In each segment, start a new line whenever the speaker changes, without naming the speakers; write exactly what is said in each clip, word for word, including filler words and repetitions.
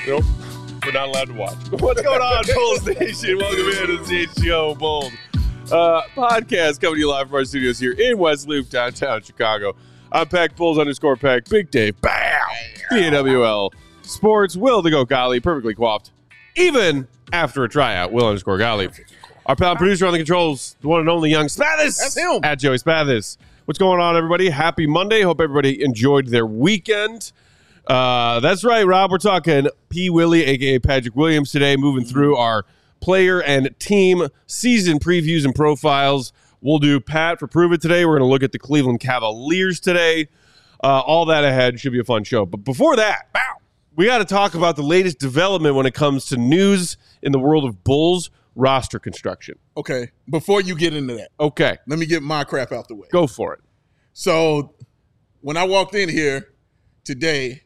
Nope. We're not allowed to watch. What's going on, Bulls Nation? Welcome in to the C H G O Bulls uh, podcast coming to you live from our studios here in West Loop, downtown Chicago. I'm Peck, Bulls underscore Peck, Big Dave, bam, P A W L Sports, Will the Go Golly, perfectly coiffed, even after a tryout, Will underscore Golly. Our pal producer on the controls, the one and only Young Spathis.
That's him.
At Joey Spathis. What's going on, everybody? Happy Monday. Hope everybody enjoyed their weekend. Uh, that's right, Rob. We're talking P. Willie, a k a. Patrick Williams today, moving through our player and team season previews and profiles. We'll do Pat for Prove It today. We're going to look at the Cleveland Cavaliers today. Uh, all that ahead. Should be a fun show. But before that, bow, we got to talk about the latest development when it comes to news in the world of Bulls roster construction.
Okay, before you get into that,
Okay.
let me get my crap out the way.
Go for it.
So, when I walked in here today,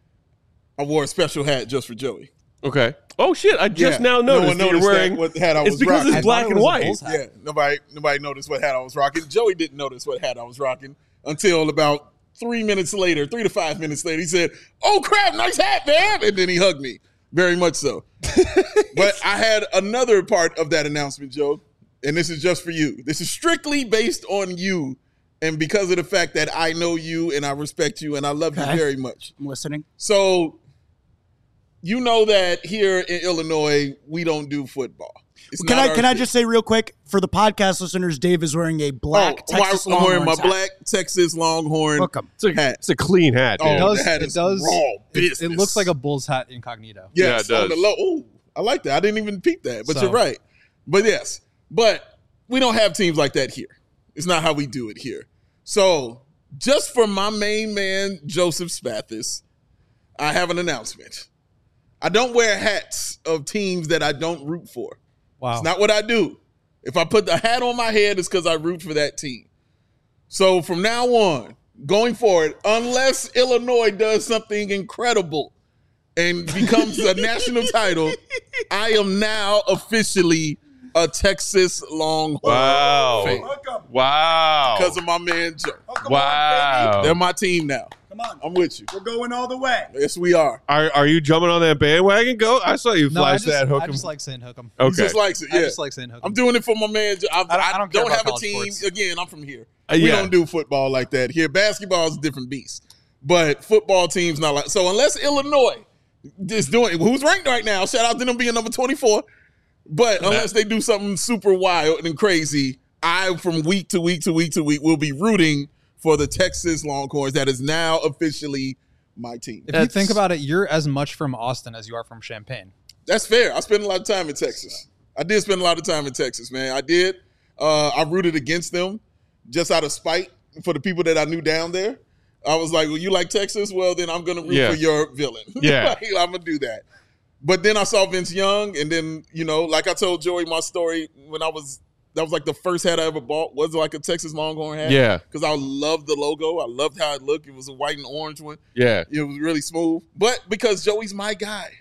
I wore a special hat just for Joey.
Okay. Oh, shit. I just
Yeah,
now
no
noticed
one
that you're
noticed
wearing.
that, what hat I
it's
was
because
rocking.
it's
I
black
thought it
and
was a
white.
Bulls hat.
Yeah, nobody nobody noticed what hat I was rocking. Joey didn't notice what hat I was rocking until about three minutes later, three to five minutes later. He said, "Oh, crap, nice hat, man." And then he hugged me. Very much so. But I had another part of that announcement, Joe, and this is just for you. This is strictly based on you and because of the fact that I know you and I respect you and I love
Okay.
you very much.
I'm listening.
So you know that here in Illinois, we don't do football. It's
Can
not
I
our
can I
thing.
just say real quick for the podcast listeners, Dave is wearing a black
Oh,
Texas
I'm wearing my
Longhorns hat.
black Texas Longhorn
Welcome.
It's a,
hat.
it's a clean hat, dude.
Oh,
It does.
that
It
is
does.
raw
It,
business.
it looks like a Bulls hat incognito.
Yes,
Yeah, it
on the
does.
low. Ooh, I like that. I didn't even peep that, but
So-
you're right. But yes, but we don't have teams like that here. It's not how we do it here. So just for my main man, Joseph Spathis, I have an announcement. I don't wear hats of teams that I don't root for.
Wow.
It's not what I do. If I put the hat on my head, it's because I root for that team. So from now on, going forward, unless Illinois does something incredible and becomes a national title, I am now officially a Texas Longhorn
Wow.
fan
Wow.
because of my man Joe.
Wow.
They're my team now.
Come on.
I'm with you.
We're going all the way.
Yes, we are.
Are are you jumping on that bandwagon? Go. I saw you
No, I
flash
just,
that hook.
I
'em.
just like saying hook 'em.
He
Okay.
just likes it.
I
Yeah.
just like saying hook 'em.
I'm doing it for my man. Joe. I,
I don't- I don't care
don't
about
have a
college
team.
sports.
Again, I'm from here.
Uh,
we
yeah.
don't do football like that here. Basketball is a different beast, but football teams not like. So unless Illinois is doing, who's ranked right now? Shout out to them being number twenty-four. But unless they do something super wild and crazy, I from week to week to week to week will be rooting for the Texas Longhorns. That is now officially my team.
If
That's-
you think about it, you're as much from Austin as you are from Champaign.
That's fair. I spent a lot of time in Texas. I did spend a lot of time in Texas, man. I did. Uh, I rooted against them just out of spite for the people that I knew down there. I was like, well, you like Texas? Well, then I'm going to root
Yeah.
for your villain.
Yeah.
Like, I'm going to do that. But then I saw Vince Young, and then, you know, like I told Joey my story when I was, that was like the first hat I ever bought, was like a Texas Longhorn hat.
Yeah.
Because I loved the logo. I loved how it looked. It was a white and orange one.
Yeah.
It was really smooth. But because Joey's my guy,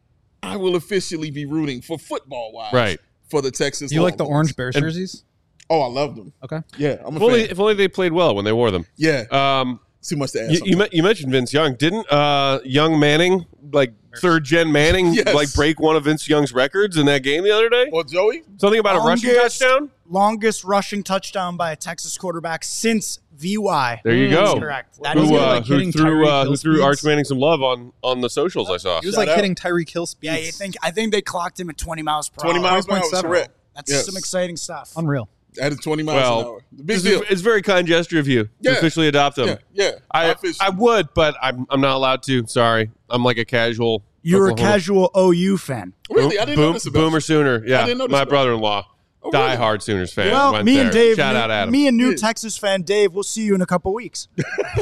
I will officially be rooting for football-wise
Right.
for the Texas
Do you like the
Longhorns.
Orange Bears
And-
jerseys?
Oh, I loved them.
Okay.
Yeah, I'm a
If only,
fan.
if only they played well when they wore them.
Yeah,
Um,
it's too much to ask.
you, you, me- you mentioned Vince Young. Didn't uh, Young Manning, like third gen Manning,
Yes.
like break one of Vince Young's records in that game the other day?
Well, Joey,
Something about a rushing
Longest-
touchdown?
Longest rushing touchdown by a Texas quarterback since V Y.
There you
That's
go.
correct. That
Who,
is
Who,
was
it.
it,
uh,
like
who
hitting
threw,
Tyreek
uh, who
Hill
threw
speeds?
Arch Manning some love on, on the socials I saw.
He was
Shout
like
out.
hitting Tyreek Hill speeds.
Yeah, I think I think they clocked him at twenty miles per
twenty
hour.
miles per hour,
twenty point seven.
correct.
That's
Yes.
some exciting stuff.
Unreal.
That is twenty miles an
Well,
hour. The big
It's,
deal.
it's a very kind gesture of you to
Yeah.
officially adopt them.
Yeah, yeah.
I,
officially.
I would, but I'm I'm not allowed to. Sorry. I'm like a casual.
You're a
Oklahoma-
casual O U fan.
really, I didn't
Boom,
know this about
Boomer
you.
Sooner. Yeah,
didn't know this
my
about
brother-in-law.
Oh, really?
Die-hard Sooners fan.
Well,
Went
me
there.
and Dave,
Shout
me,
out Adam.
me and new
Yeah.
Texas fan Dave, we'll see you in a couple weeks.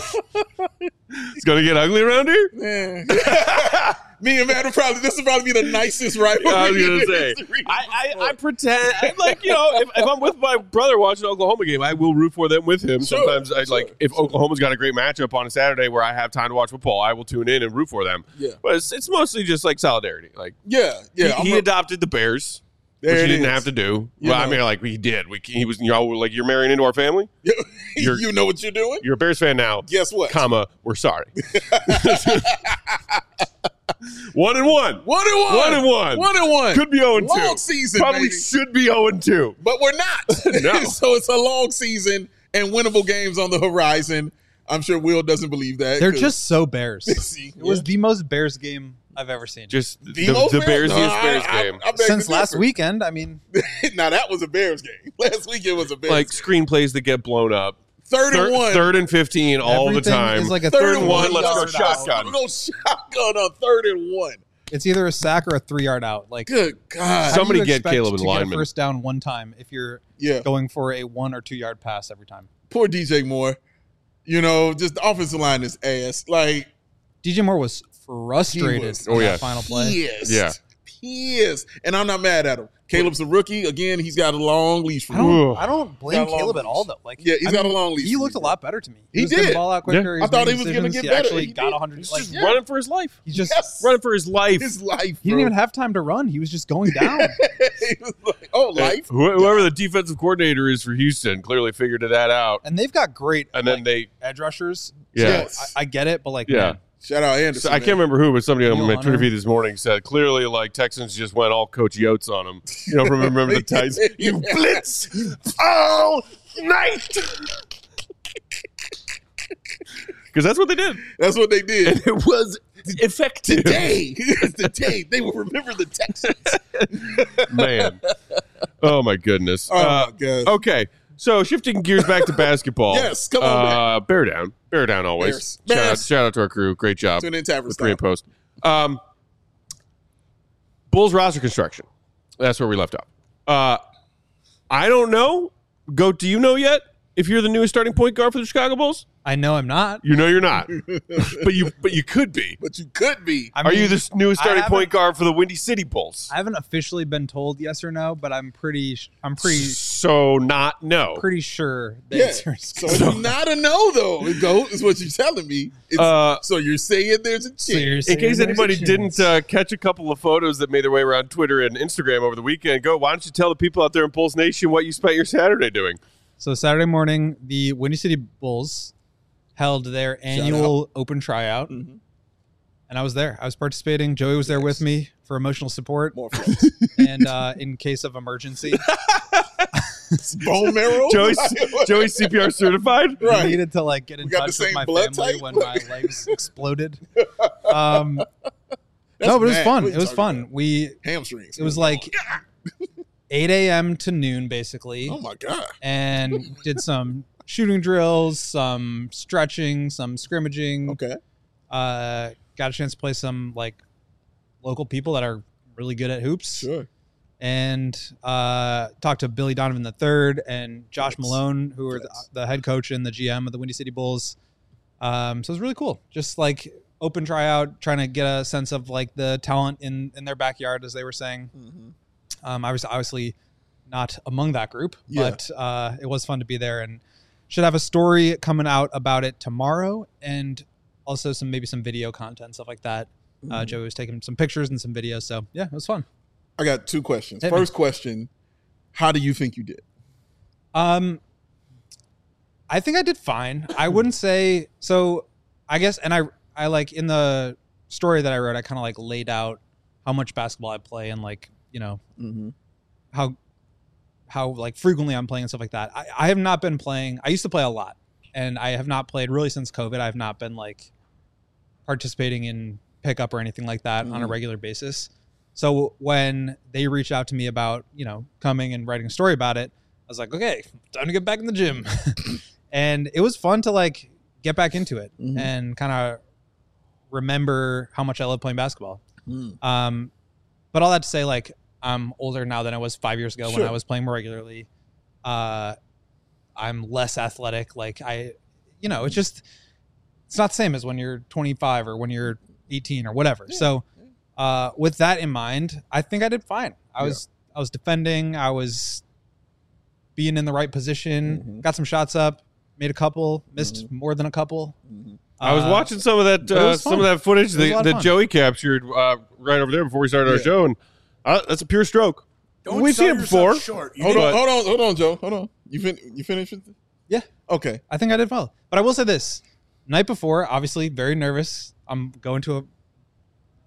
It's going to get ugly around here?
Yeah. Me and Matt will probably, this will probably be the nicest rivalry.
I was
in
going to say.
history.
I, I, I pretend, I, like, you know, if, if I'm with my brother watching an Oklahoma game, I will root for them with him.
Sure,
Sometimes, I
sure.
like, if Oklahoma's got a great matchup on a Saturday where I have time to watch football, I will tune in and root for them.
Yeah.
But it's, it's mostly just like solidarity. Like,
Yeah, yeah. I'm
he, he
a-
adopted the Bears.
There
which
it
he didn't
is.
have to do.
You
well, I
know.
mean, like, he did. We, he was, you know, like, you're marrying into our family. You're-
you know what you're doing?
You're a Bears fan now.
Guess what?
Comma, we're sorry. One and one.
One and one.
One and one.
One and one.
Could be zero and two.
Long season,
Probably
baby.
should be zero and two.
But we're not.
No.
So it's a long season and winnable games on the horizon. I'm sure Will doesn't believe that.
They're
'cause-
just so Bears.
See,
It was
yeah.
the most Bears game I've ever seen.
Just the,
The
the,
most
the
Bears?
Bearsiest
No, I-
Bears
I-
game.
I beg to
Since last
differ.
weekend, I mean,
Now that was a Bears game. Last week it was a Bears
Like
game.
screenplays that get blown up.
Third
Third,
and one.
third and fifteen all the
everything
time.
is like a
third and one.
one,
Let's go
yard
shotgun.
out. Go shotgun on third and one.
it's either a sack or a three yard out. Like,
Good God.
how do
Somebody
you
get
expect
Caleb and
to get a
lineman.
first down one time if you're
Yeah.
going for a one or two yard pass every time.
Poor D J Moore. You know, just the offensive line is ass. Like,
D J Moore was frustrated
He was-
on
Oh,
that
yeah.
final play.
pissed.
Yeah.
Pissed. And I'm not mad at him. Caleb's a rookie. Again, he's got a long leash for
I
me.
Ooh.
don't, I don't blame
Got a long
Caleb at all
leash.
though. Like,
Yeah, he's
I
got
mean,
a long leash
He
for
looked
me,
a
bro.
lot better to me.
He
was getting
did.
the ball out quicker.
Yeah.
He
I thought he
making
was gonna
decisions.
get
he
better.
Actually
He
got
did.
one hundred.
He's
Like,
just
Yeah.
running for his life.
he's just
Yes.
Running for his life.
His life.
he didn't even have time to run. He was just going down.
He was like, oh, life.
Wh- Whoever the defensive coordinator is for Houston clearly figured that out.
And they've got great
And then
like,
they,
edge rushers.
yeah.
So
Yes.
I, I get it, but like,
Yeah.
man,
Shout out
So
Anderson.
I can't
man.
remember who, but somebody on
Neil
my
Hunter.
Twitter feed this morning said clearly, like Texans just went all Coach Yotes on him. You know, remember, remember the Titans? You blitz all night, because that's what they did,
That's what they did.
and it was effective.
Today, it's the day they will remember the Texans.
Man, oh my goodness.
Oh
Uh,
my God.
okay, so shifting gears back to basketball.
Yes, come on
uh, Bear down, bear down always.
Bears.
Shout, out,
Bears.
shout out to our crew. Great job.
Tune in Tavern
With pre and
style.
post. Um, Bulls roster construction. That's where we left off. Uh, I don't know. Goat, do you know yet if you're the newest starting point guard for the Chicago Bulls?
I know I'm not.
You know you're not, but you but you could be.
But you could be.
I
Are
mean,
you the newest
I
starting
haven't-
point guard for the Windy City Bulls?
I haven't officially been told yes or no, but I'm pretty. sh- I'm pretty.
So not no.
Pretty sure the
Yeah.
answer is
So it's not a no, though. Go is what you're telling me. It's,
Uh,
so you're saying there's a chance.
In case anybody didn't uh, catch a couple of photos that made their way around Twitter and Instagram over the weekend, go. Why don't you tell the people out there in Bulls Nation what you spent your Saturday doing?
So Saturday morning, the Windy City Bulls held their annual open tryout,
Mhm.
and I was there. I was participating. Joey was there with me for emotional support
More friends.
and uh, in case of emergency.
Bone marrow.
Joey's, Joey's C P R certified?
I
Right.
needed to like get in
We got the
touch with
same
my
blood
family
type?
when my legs exploded. Um,
That's
no, but it was
mad.
fun.
What are you
it was
talking
fun.
about?
We
Hamstrings.
it was like eight a.m. to noon basically,
Oh my God.
and did some shooting drills, some stretching, some scrimmaging.
Okay.
Uh, got a chance to play some like local people that are really good at hoops,
Sure.
and uh, talked to Billy Donovan the third and Josh
Yes.
Malone, who are the,
Yes.
the head coach and the G M of the Windy City Bulls. Um, so it was really cool. Just like open tryout, trying to get a sense of like the talent in in their backyard, as they were saying.
Mhm.
Um, I was obviously not among that group,
Yeah.
but uh, it was fun to be there, and should have a story coming out about it tomorrow, and also some maybe some video content, stuff like that. Uh,
Mhm.
Joey was taking some pictures and some videos, so yeah, it was fun.
I got two questions.
Hit me.
First question: how do you think you did?
Um, I think I did fine. I wouldn't say so. I guess, and I I like in the story that I wrote, I kind of like laid out how much basketball I play and like you know
Mm-hmm.
how how like frequently I'm playing and stuff like that. I, I have not been playing. I used to play a lot, and I have not played really since COVID. I have not been like participating in pickup or anything like that on a
Mhm.
regular basis. So when they reached out to me about you know coming and writing a story about it, I was like, okay, time to get back in the gym, and it was fun to like get back into it
Mhm.
and kind of remember how much I love playing basketball.
Mm.
Um, but all that to say, like, I'm older now than I was five years ago when
Sure.
I was playing more regularly. Uh, I'm less athletic. Like I, you know, it's just, it's not the same as when you're twenty-five or when you're eighteen or whatever.
Yeah.
So, uh, with that in mind, I think I did fine. I
Yeah.
was, I was defending. I was being in the right position.
Mhm.
Got some shots up. Made a couple. Missed more than a couple.
Mm-hmm.
I was
Uh,
watching some of that,
but it
uh,
was
some
fun.
of that footage
was a lot
that,
of
that
fun.
Joey captured uh, right over there before we started our
Yeah.
show, and uh, that's a pure stroke.
Don't
We've
sell
seen it
yourself
before.
Short. You
Hold
need-
on,
But-
hold on, hold on, Joe. Hold on. You fin- you finished with it?
Yeah.
Okay.
I think I did well. But I will say this. Night before, obviously very nervous. I'm going to a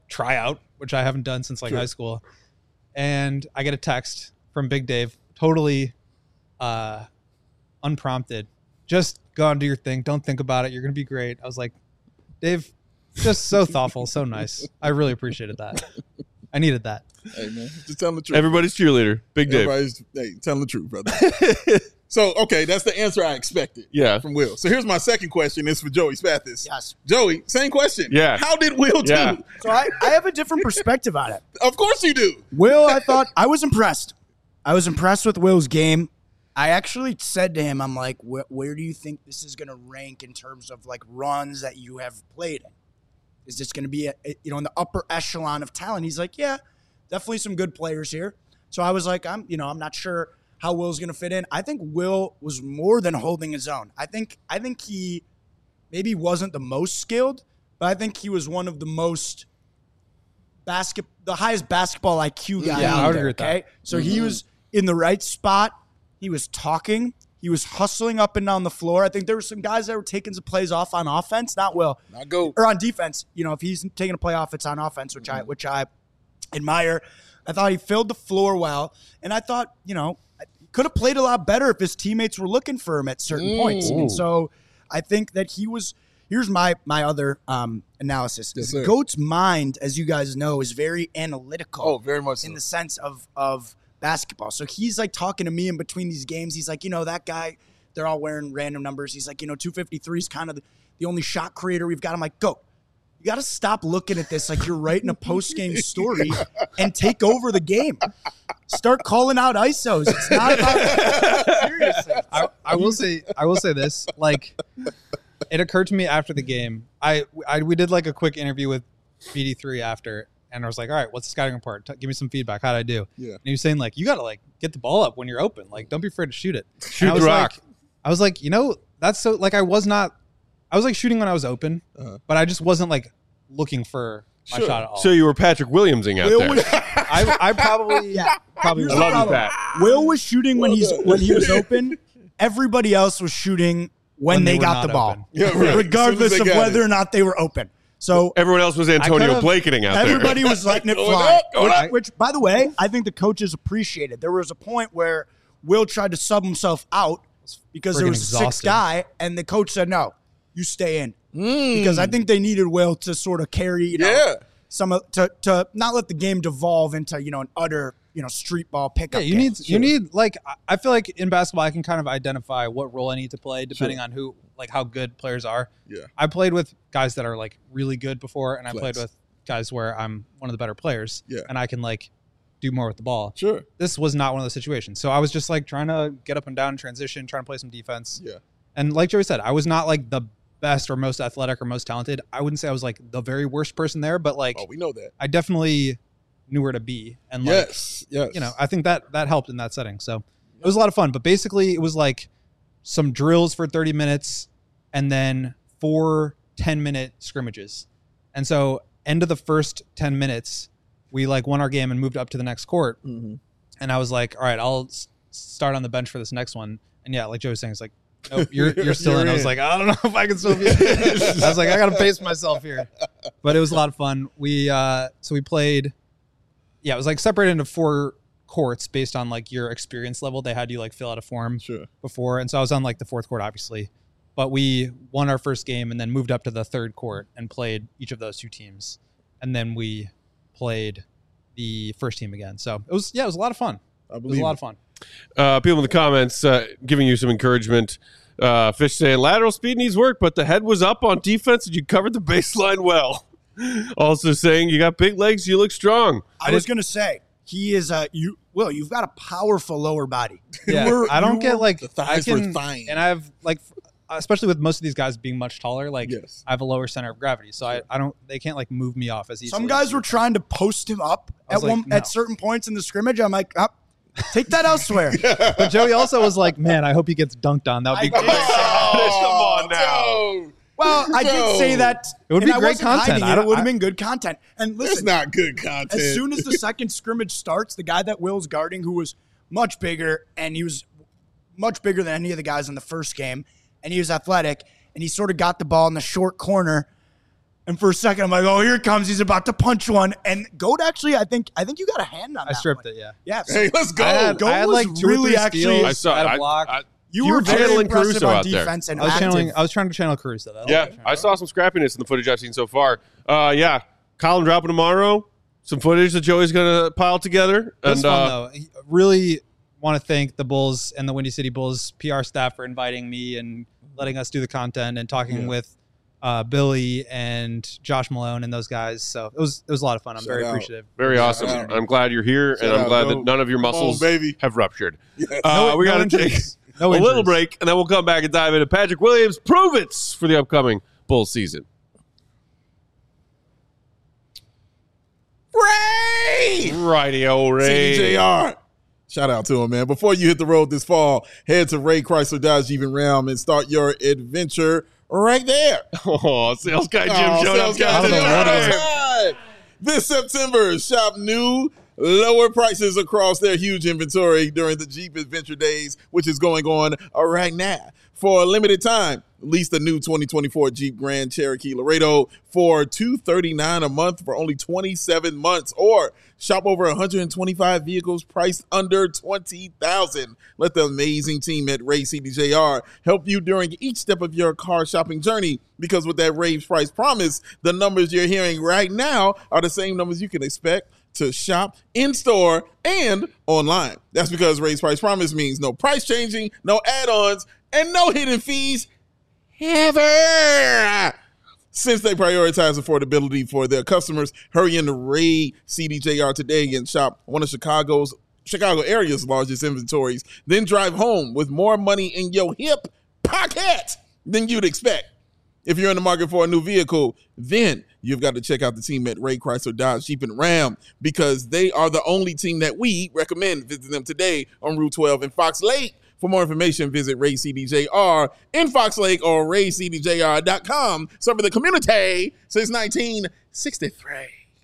tryout, which I haven't done since like
Sure.
high school. And I get a text from Big Dave, totally uh, unprompted. Just go out and do your thing. Don't think about it. You're going to be great. I was like, Dave, just so thoughtful, so nice. I really appreciated that. I needed that.
Hey, man. Just telling the truth.
Everybody's cheerleader. Big Dave.
Everybody's hey, telling the truth, brother. So, okay, that's the answer I expected
Yeah.
from Will. So here's my second question. It's for Joey Spathis.
Yes.
Joey, same question.
Yeah.
How did Will do?
Yeah.
So I, I have a different perspective on it.
Of course you do.
Will, I thought I was impressed. I was impressed with Will's game. I actually said to him, I'm like, where, where do you think this is going to rank in terms of like runs that you have played in? Is this going to be, a, a- you know, in the upper echelon of talent? He's like, yeah, definitely some good players here. So I was like, I'm, you know, I'm not sure how Will's going to fit in. I think Will was more than holding his own. I think, I think he maybe wasn't the most skilled, but I think he was one of the most basket, the highest basketball I Q guy
Yeah,
out
I would
there,
agree with that.
okay? So he was in the right spot. He was talking. He was hustling up and down the floor. I think there were some guys that were taking some plays off on offense, not Will,
Not go.
or on defense. You know, if he's taking a play off, it's on offense, which I which I admire. I thought he filled the floor well, and I thought, you know, he could have played a lot better if his teammates were looking for him at certain points. And so I think that he was. Here's my my other um, analysis.
Yes, sir.
Goat's mind, as you guys know, is very analytical
Oh, very much so.
in the sense of of basketball. So he's like talking to me in between these games. He's like, you know, that guy, they're all wearing random numbers. He's like, you know, two fifty-three is kind of the, the only shot creator we've got. I'm like, go. You got to stop looking at this like you're writing a post-game story and take over the game. Start calling out I S Os. It's not about seriously.
I, I will say I will say this. Like, it occurred to me after the game. I, I we did like a quick interview with B D three after, and I was like, all right, what's the scouting report? T- give me some feedback. How'd I do?
Yeah.
And he was saying like, you got to like get the ball up when you're open. Like, don't be afraid to shoot it.
Shoot
And I
the
was
rock.
Like, I was like, you know, that's so like I was not. I was like shooting when I was open,
Uh-huh.
but I just wasn't like looking for my
Sure.
shot at all.
So you were Patrick Williamsing out
Will
there.
was,
I, I probably
yeah.
probably
Here's
I
the
love you,
problem.
Pat.
Will was shooting when
Well
he's
done.
when he was open. Everybody else was shooting when,
When they
they,
were
got
not
the ball,
open.
Yeah, right.
regardless
As soon
of
as they got
whether
it.
or not they were open. So
Everyone else was Antonio
could've-
Blakening out there.
everybody was letting it
Going
fly.
up, going
which,
up.
which, by the way, I think the coaches appreciated. There was a point where Will tried to sub himself out because there
Friggin'
was a sixth
exhausted.
guy, and the coach said, "No, you stay in,"
Mm.
because I think they needed Will to sort of carry, you know,
Yeah.
some of, to to not let the game devolve into, you know, an utter, you know, street ball pickup.
Yeah, you
game.
need you need like I- I feel like in basketball I can kind of identify what role I need to play depending on who like how good players are.
Yeah.
I played with guys that are like really good before, and I
Flex.
played with guys where I'm one of the better players.
Yeah.
and I can like do more with the ball.
Sure.
This was not one of those situations, so I was just like trying to get up and down in transition, trying to play some defense.
Yeah.
And like Joey said, I was not like the best or most athletic or most talented. I wouldn't say I was like the very worst person there, but like
Oh, we know that.
I definitely knew where to be. And like,
Yes. Yes.
you know, I think that that helped in that setting. So it was a lot of fun. But basically, it was like some drills for thirty minutes and then four ten minute scrimmages. And so, end of the first ten minutes, we like won our game and moved up to the next court.
Mhm.
And I was like, all right, I'll s- start on the bench for this next one. And yeah, like Joe was saying, it's like, nope, you're you're still
You're
in. I was
in.
like, I don't know if I can still be in. I was like, I gotta pace myself here. But it was a lot of fun. We uh so we played, yeah, it was like separated into four courts based on like your experience level. They had you like fill out a form
Sure.
before. And so I was on like the fourth court, obviously. But we won our first game and then moved up to the third court and played each of those two teams. And then we played the first team again. So it was yeah, it was a lot of fun.
I
It was
believe
a lot
it.
of fun.
Uh, people in the comments uh, giving you some encouragement. Uh, Fish saying lateral speed needs work, but the head was up on defense and you covered the baseline well. Also saying you got big legs, you look strong.
I was gonna say he is a you. Will you've got a powerful lower body.
Yeah,
You were-
I don't
you
get
were-
like
the thighs
I
were
can,
fine.
and I have like, especially with most of these guys being much taller, like
Yes.
I have a lower center of gravity, so I, I don't they can't like move me off as easily.
Some guys were trying to post him up
I
at
was like,
one
no.
at certain points in the scrimmage. I'm like, up, take that elsewhere.
but Joey also was like, man, I hope he gets dunked on. That would be
I
great.
did.
Come on now.
Joe,
Well, I did say that
It would
and
be
I
great
wasn't
content.
hiding
I
It,
don't-
it would have
I-
been good content. And
It's
listen,
not good content.
as soon as the second scrimmage starts, the guy that Will's guarding, who was much bigger, and he was much bigger than any of the guys in the first game, and he was athletic, and he sort of got the ball in the short corner. And for a second, I'm like, oh, here it comes. He's about to punch one. And Goat actually, I think, I think you got a hand on
I
that
stripped
one.
it. Yeah.
Yeah. So
Hey, let's go.
I had,
Goat
I had
was
like two
really
or three
actually-
steals.
I saw
I had
I-
a block.
I-
you,
you
were
were
very
channeling
impressive
Caruso
on
out there.
defense and
I was
active.
channeling. I was trying to channel Caruso. That was
Yeah,
what was trying
I
to
saw some scrappiness in the footage I've seen so far. Uh, yeah, Colin dropping tomorrow. Some footage that Joey's gonna pile together.
It was
and
fun
uh,
though. Really want to thank the Bulls and the Windy City Bulls P R staff for inviting me and letting us do the content and talking
Yeah.
with uh, Billy and Josh Malone and those guys. So it was it was a lot of fun. I'm
Shout
very
out.
appreciative.
very awesome.
Yeah.
I'm glad you're here,
Shout
and I'm
out,
glad
Goat.
that none of your
Come on,
muscles
baby.
have ruptured.
Yes.
Uh, we
no
got to take
injuries. No
a little
injuries.
break, and then we'll come back and dive into Patrick Williams' Prove It's for the upcoming Bulls season.
Ray!
Radio
C
Ray.
D J R. Shout out to him, man. Before you hit the road this fall, head to Ray Chrysler Dodge Jeep and Ram and start your adventure right there.
Oh, sales guy Jim
Oh,
showed
sales
up.
guy
guys.
Jim
I don't know what it is.
Right. This September, shop new, lower prices across their huge inventory during the Jeep Adventure Days, which is going on right now. For a limited time, lease the new twenty twenty-four Jeep Grand Cherokee Laredo for two hundred thirty-nine dollars a month for only twenty-seven months, or shop over one hundred twenty-five vehicles priced under twenty thousand dollars. Let the amazing team at Ray C D J R help you during each step of your car shopping journey, because with that Ray's price promise, the numbers you're hearing right now are the same numbers you can expect to shop in-store and online. That's because Ray's price promise means no price changing, no add-ons, and no hidden fees ever. Since they prioritize affordability for their customers, hurry into Ray C D J R today and shop one of Chicago's Chicago area's largest inventories. Then drive home with more money in your hip pocket than you'd expect. If you're in the market for a new vehicle, then you've got to check out the team at Ray Chrysler Dodge Jeep and Ram, because they are the only team that we recommend. Visit them today on Route twelve in Fox Lake. For more information, visit Ray C D J R in Fox Lake or ray c d j r dot com. Serving the community since nineteen sixty-three.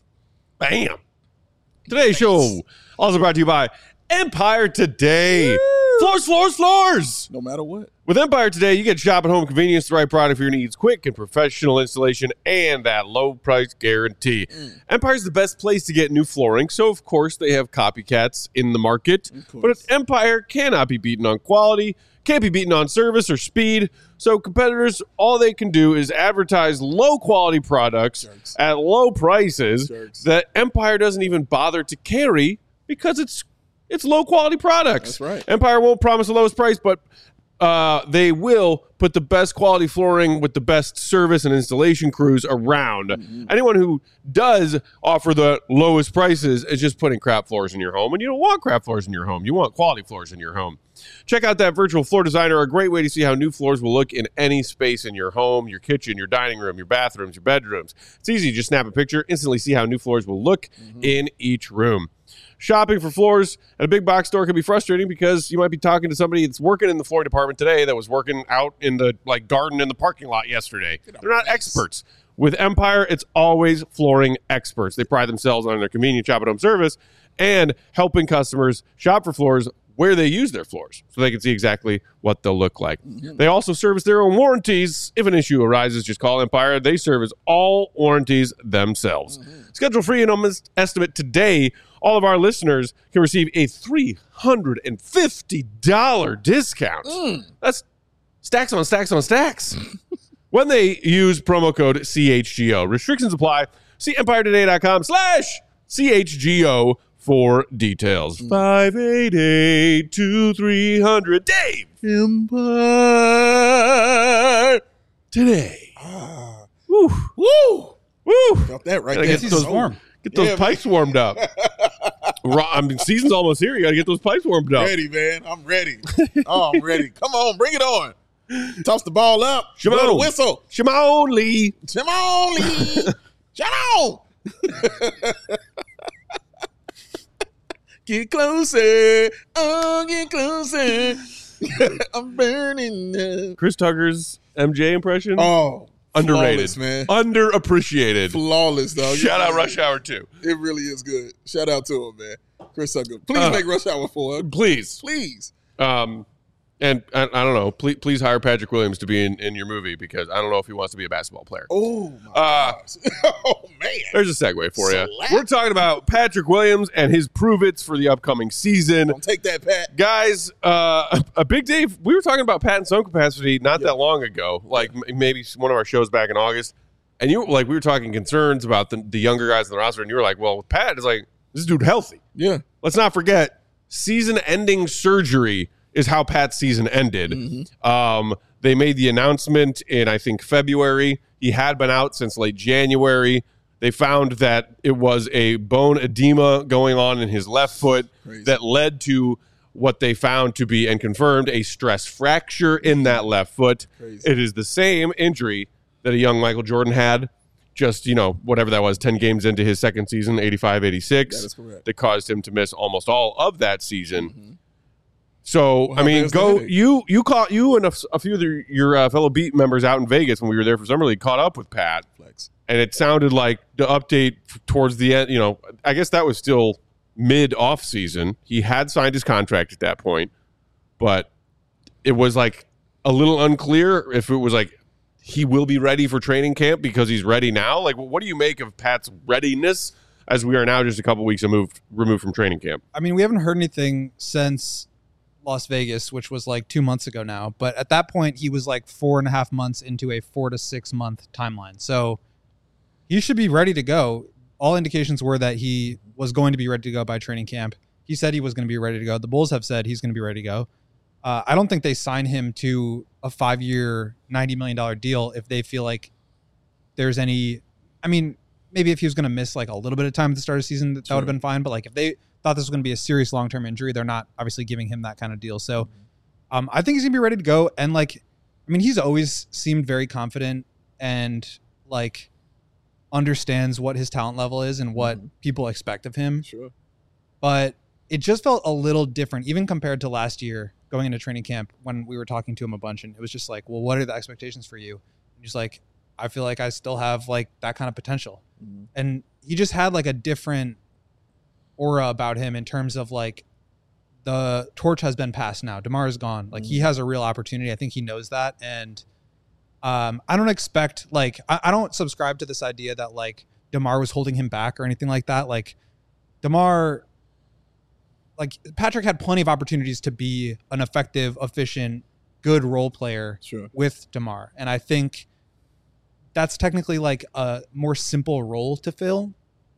Bam. Today's show also brought to you by Empire Today. Floors, floors, floors.
No matter what.
With Empire Today, you get shop at home convenience, the right product for your needs, quick and professional installation, and that low price guarantee. Mm. Empire's the best place to get new flooring, so of course they have copycats in the market. But Empire cannot be beaten on quality, can't be beaten on service or speed. So competitors, all they can do is advertise low quality products Jerks. At low prices Jerks. That Empire doesn't even bother to carry because it's it's low quality products.
That's right.
Empire won't promise the lowest price, but uh, they will put the best quality flooring with the best service and installation crews around. Mm-hmm. Anyone who does offer the lowest prices is just putting crap floors in your home, and you don't want crap floors in your home. You want quality floors in your home. Check out that virtual floor designer, a great way to see how new floors will look in any space in your home, your kitchen, your dining room, your bathrooms, your bedrooms. It's easy. Just snap a picture, instantly see how new floors will look mm-hmm. in each room. Shopping for floors at a big box store can be frustrating because you might be talking to somebody that's working in the flooring department today that was working out in the like garden in the parking lot yesterday. They're not experts. With Empire, it's always flooring experts. They pride themselves on their convenient shop at home service and helping customers shop for floors where they use their floors so they can see exactly what they'll look like. Mm-hmm. They also service their own warranties. If an issue arises, just call Empire. They service all warranties themselves. Mm-hmm. Schedule free and almost estimate today. All of our listeners can receive a three hundred fifty dollars discount. Mm. That's stacks on stacks on stacks. When they use promo code C H G O. Restrictions apply. See empire today dot com slash C H G O for details. Mm. five eight eight, two three zero zero. Dave. Empire Today.
Ah.
Woo. Woo. Woo.
Felt that right
Gotta
there.
get those
warm.
Get those
Yeah,
pipes warmed up. I mean, season's almost here. You got to get those pipes warmed up.
Ready, man. I'm ready. Oh, I'm ready. Come on, bring it on. Toss the ball up.
Shimon.
Blow the whistle.
Shimon Lee.
Shimon Lee. Shimon. Get closer. Oh, get closer. I'm burning up.
Chris Tucker's M J impression.
Oh,
underrated,
flawless, man.
Underappreciated.
Flawless, dog.
Shout out Rush Hour two.
It really is good. Shout out to him, man. Chris Tucker. Please
Uh,
make Rush Hour four.
Please.
Please.
Um, And I, I don't know. Please, please hire Patrick Williams to be in, in your movie because I don't know if he wants to be a basketball player.
Oh, my
Uh,
gosh. Oh, man.
There's a segue for you.
Slap.
We're talking about Patrick Williams and his prove-its for the upcoming season.
Don't take that, Pat.
Guys, uh, a, a big day. We were talking about Pat in some capacity not
Yeah.
that long ago, like m- maybe one of our shows back in August. And you like we were talking concerns about the, the younger guys in the roster, and you were like, well, with Pat, it's like, this dude healthy.
Yeah.
Let's not forget, season-ending surgery is how Pat's season ended.
Mm-hmm.
Um, they made the announcement in, I think, February. He had been out since late January. They found that it was a bone edema going on in his left foot
Crazy.
that led to what they found to be and confirmed a stress fracture in that left foot.
Crazy.
It is the same injury that a young Michael Jordan had just, you know, whatever that was, ten games into his second season, eighty-five eighty-six.
That is correct.
That caused him to miss almost all of that season.
Mm-hmm.
So,
Well,
I
how
mean,
bad's the
go
headache?
you you caught you and a, f- a few of the, your uh, fellow beat members out in Vegas when we were there for Summer League caught up with Pat,
Flex.
and it sounded like the update f- towards the end. You know, I guess that was still mid off season. He had signed his contract at that point, but it was like a little unclear if it was like he will be ready for training camp because he's ready now. Like, what do you make of Pat's readiness as we are now just a couple weeks removed removed from training camp?
I mean, we haven't heard anything since Las Vegas, which was like two months ago now. But at that point, he was like four and a half months into a four to six month timeline. So he should be ready to go. All indications were that he was going to be ready to go by training camp. He said he was going to be ready to go. The Bulls have said he's going to be ready to go. Uh, I don't think they sign him to a five-year, ninety million dollars deal if they feel like there's any, I mean, maybe if he was going to miss like a little bit of time at the start of the season, that, that would have been fine. But like if they thought this was going to be a serious long-term injury, they're not obviously giving him that kind of deal. So um, I think he's going to be ready to go. And like, I mean, he's always seemed very confident and like understands what his talent level is and what
Mhm.
people expect of him.
Sure.
But it just felt a little different, even compared to last year going into training camp when we were talking to him a bunch. And it was just like, well, what are the expectations for you? And he's like, I feel like I still have like that kind of potential.
Mm-hmm.
And he just had like a different aura about him in terms of like the torch has been passed now. DeMar is gone. Like he has a real opportunity. I think he knows that. And um, I don't expect like, I, I don't subscribe to this idea that like DeMar was holding him back or anything like that. Like DeMar, like Patrick had plenty of opportunities to be an effective, efficient, good role player
Sure.
with DeMar. And I think that's technically like a more simple role to fill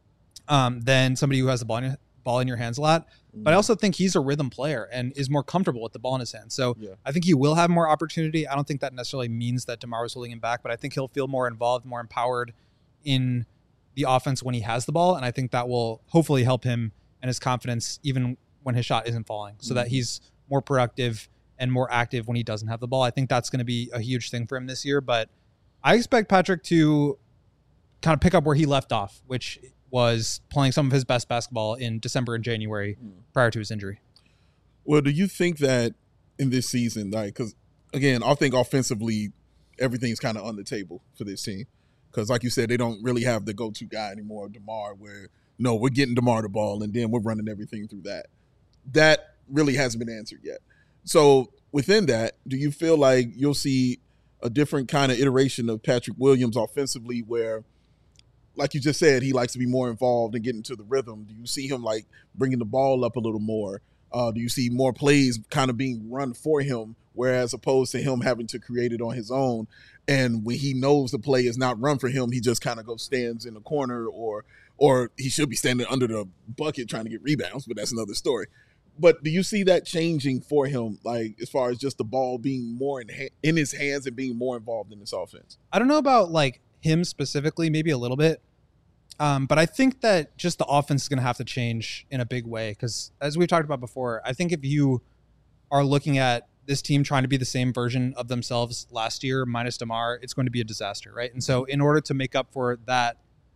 um, than somebody who has the ball in, ball in your hands a lot. But I also think he's a rhythm player and is more comfortable with the ball in his hands. So
Yeah.
I think he will have more opportunity. I don't think that necessarily means that DeMar was holding him back, but I think he'll feel more involved, more empowered in the offense when he has the ball. And I think that will hopefully help him and his confidence even when his shot isn't falling, so that he's more productive and more active when he doesn't have the ball. I think that's going to be a huge thing for him this year. But I expect Patrick to kind of pick up where he left off, which was playing some of his best basketball in December and January prior to his injury.
Well, do you think that in this season, like, because again, I think offensively, everything's kind of on the table for this team. Because, like you said, they don't really have the go-to guy anymore, DeMar, where, no, we're getting DeMar the ball, and then we're running everything through that. That really hasn't been answered yet. So within that, do you feel like you'll see a different kind of iteration of Patrick Williams offensively where, like you just said, he likes to be more involved and get into the rhythm? Do you see him, like, bringing the ball up a little more? Uh, do you see more plays kind of being run for him, whereas opposed to him having to create it on his own? And when he knows the play is not run for him, he just kind of goes stands in the corner, or or he should be standing under the bucket trying to get rebounds, but that's another story. But do you see that changing for him, like as far as just the ball being more in, ha- in his hands and being more involved in this offense?
I don't know about like him specifically, maybe a little bit. Um, but I think that just the offense is going to have to change in a big way. Because as we've talked about before, I think if you are looking at this team trying to be the same version of themselves last year, minus DeMar, it's going to be a disaster, right? And so in order to make up for that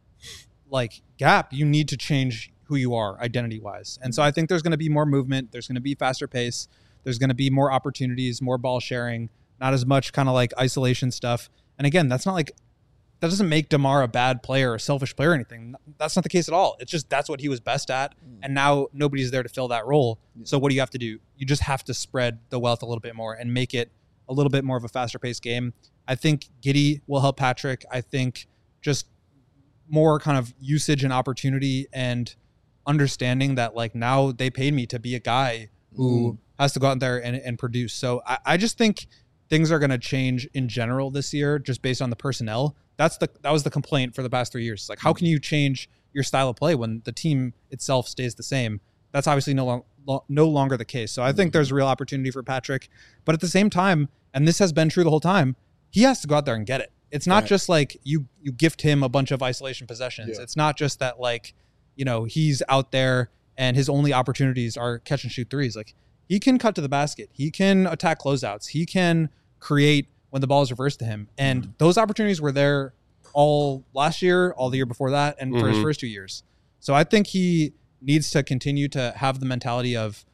like gap, you need to change who you are identity-wise. And so I think there's going to be more movement. There's going to be faster pace. There's going to be more opportunities, more ball sharing, not as much kind of like isolation stuff. And again, that's not like that doesn't make DeMar a bad player or a selfish player or anything. That's not the case at all. It's just that's what he was best at, and now nobody's there to fill that role. So what do you have to do? You just have to spread the wealth a little bit more and make it a little bit more of a faster paced game. I think Giddey will help Patrick. I think just more kind of usage and opportunity and understanding that like now they paid me to be a guy who mm. has to go out there and, and produce. So I, I just think things are going to change in general this year just based on the personnel. That's the that was the complaint for the past three years. It's like, how can you change your style of play when the team itself stays the same? That's obviously no, long, lo- no longer the case. So I think there's a real opportunity for Patrick. But at the same time, and this has been true the whole time, he has to go out there and get it. It's not right. just like you you gift him a bunch of isolation possessions. Yeah. It's not just that like, you know, he's out there and his only opportunities are catch and shoot threes. Like he can cut to the basket. He can attack closeouts. He can create when the ball is reversed to him. And mm-hmm. those opportunities were there all last year, all the year before that, and mm-hmm. for his first two years. So I think he needs to continue to have the mentality of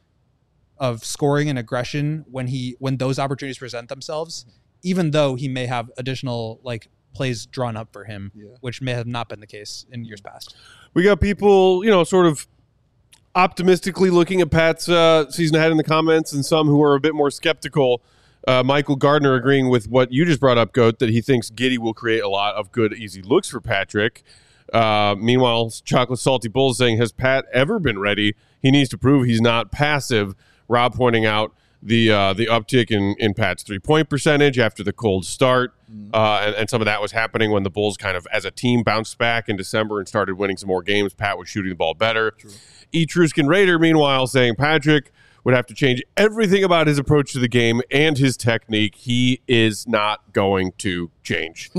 of scoring and aggression when he when those opportunities present themselves, even though he may have additional like plays drawn up for him, yeah. which may have not been the case in years past.
We got people, you know, sort of optimistically looking at Pat's uh, season ahead in the comments, and some who are a bit more skeptical. Uh, Michael Gardner agreeing with what you just brought up, Goat, that he thinks Giddey will create a lot of good, easy looks for Patrick. Uh, meanwhile, Chocolate Salty Bull saying, has Pat ever been ready? He needs to prove he's not passive. Rob pointing out the uh, the uptick in, in Pat's three-point percentage after the cold start. Mm. Uh, and, and some of that was happening when the Bulls kind of, as a team, bounced back in December and started winning some more games. Pat was shooting the ball better. True. Etruscan Raider, meanwhile, saying Patrick would have to change everything about his approach to the game and his technique. He is not going to change.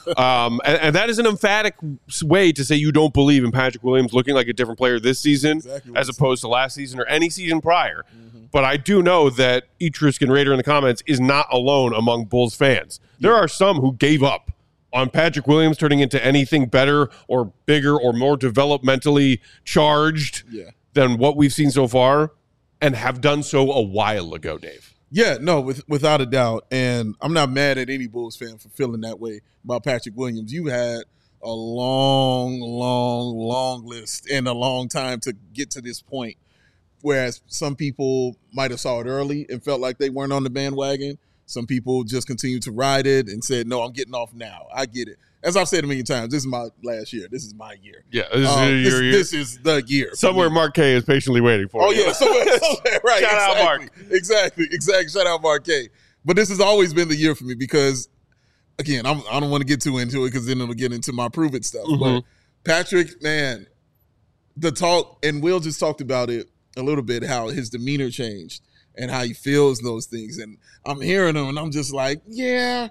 um, and, and that is an emphatic way to say you don't believe in Patrick Williams looking like a different player this season exactly as opposed to last season or any season prior. Mm-hmm. But I do know that Etruscan Raider in the comments is not alone among Bulls fans. Yeah. There are some who gave up on Patrick Williams turning into anything better or bigger or more developmentally charged yeah. than what we've seen so far, and have done so a while ago, Dave.
Yeah, no, with, without a doubt. And I'm not mad at any Bulls fan for feeling that way about Patrick Williams. You had a long, long, long list and a long time to get to this point, whereas some people might have saw it early and felt like they weren't on the bandwagon. Some people just continued to ride it and said, no, I'm getting off now. I get it. As I've said a million times, this is my last year. This is my year.
Yeah, this,
um,
is,
this,
your year.
This is the year.
Somewhere Marquet is patiently waiting for
oh,
you.
Oh, yeah, somewhere, somewhere, right.
Shout
exactly,
out, Mark.
Exactly, exactly. Shout out, Marquet. But this has always been the year for me because, again, I'm, I don't want to get too into it because then it'll get into my prove it stuff. Mm-hmm. But Patrick, man, the talk, and Will just talked about it a little bit, how his demeanor changed and how he feels those things. And I'm hearing him, and I'm just like, yeah.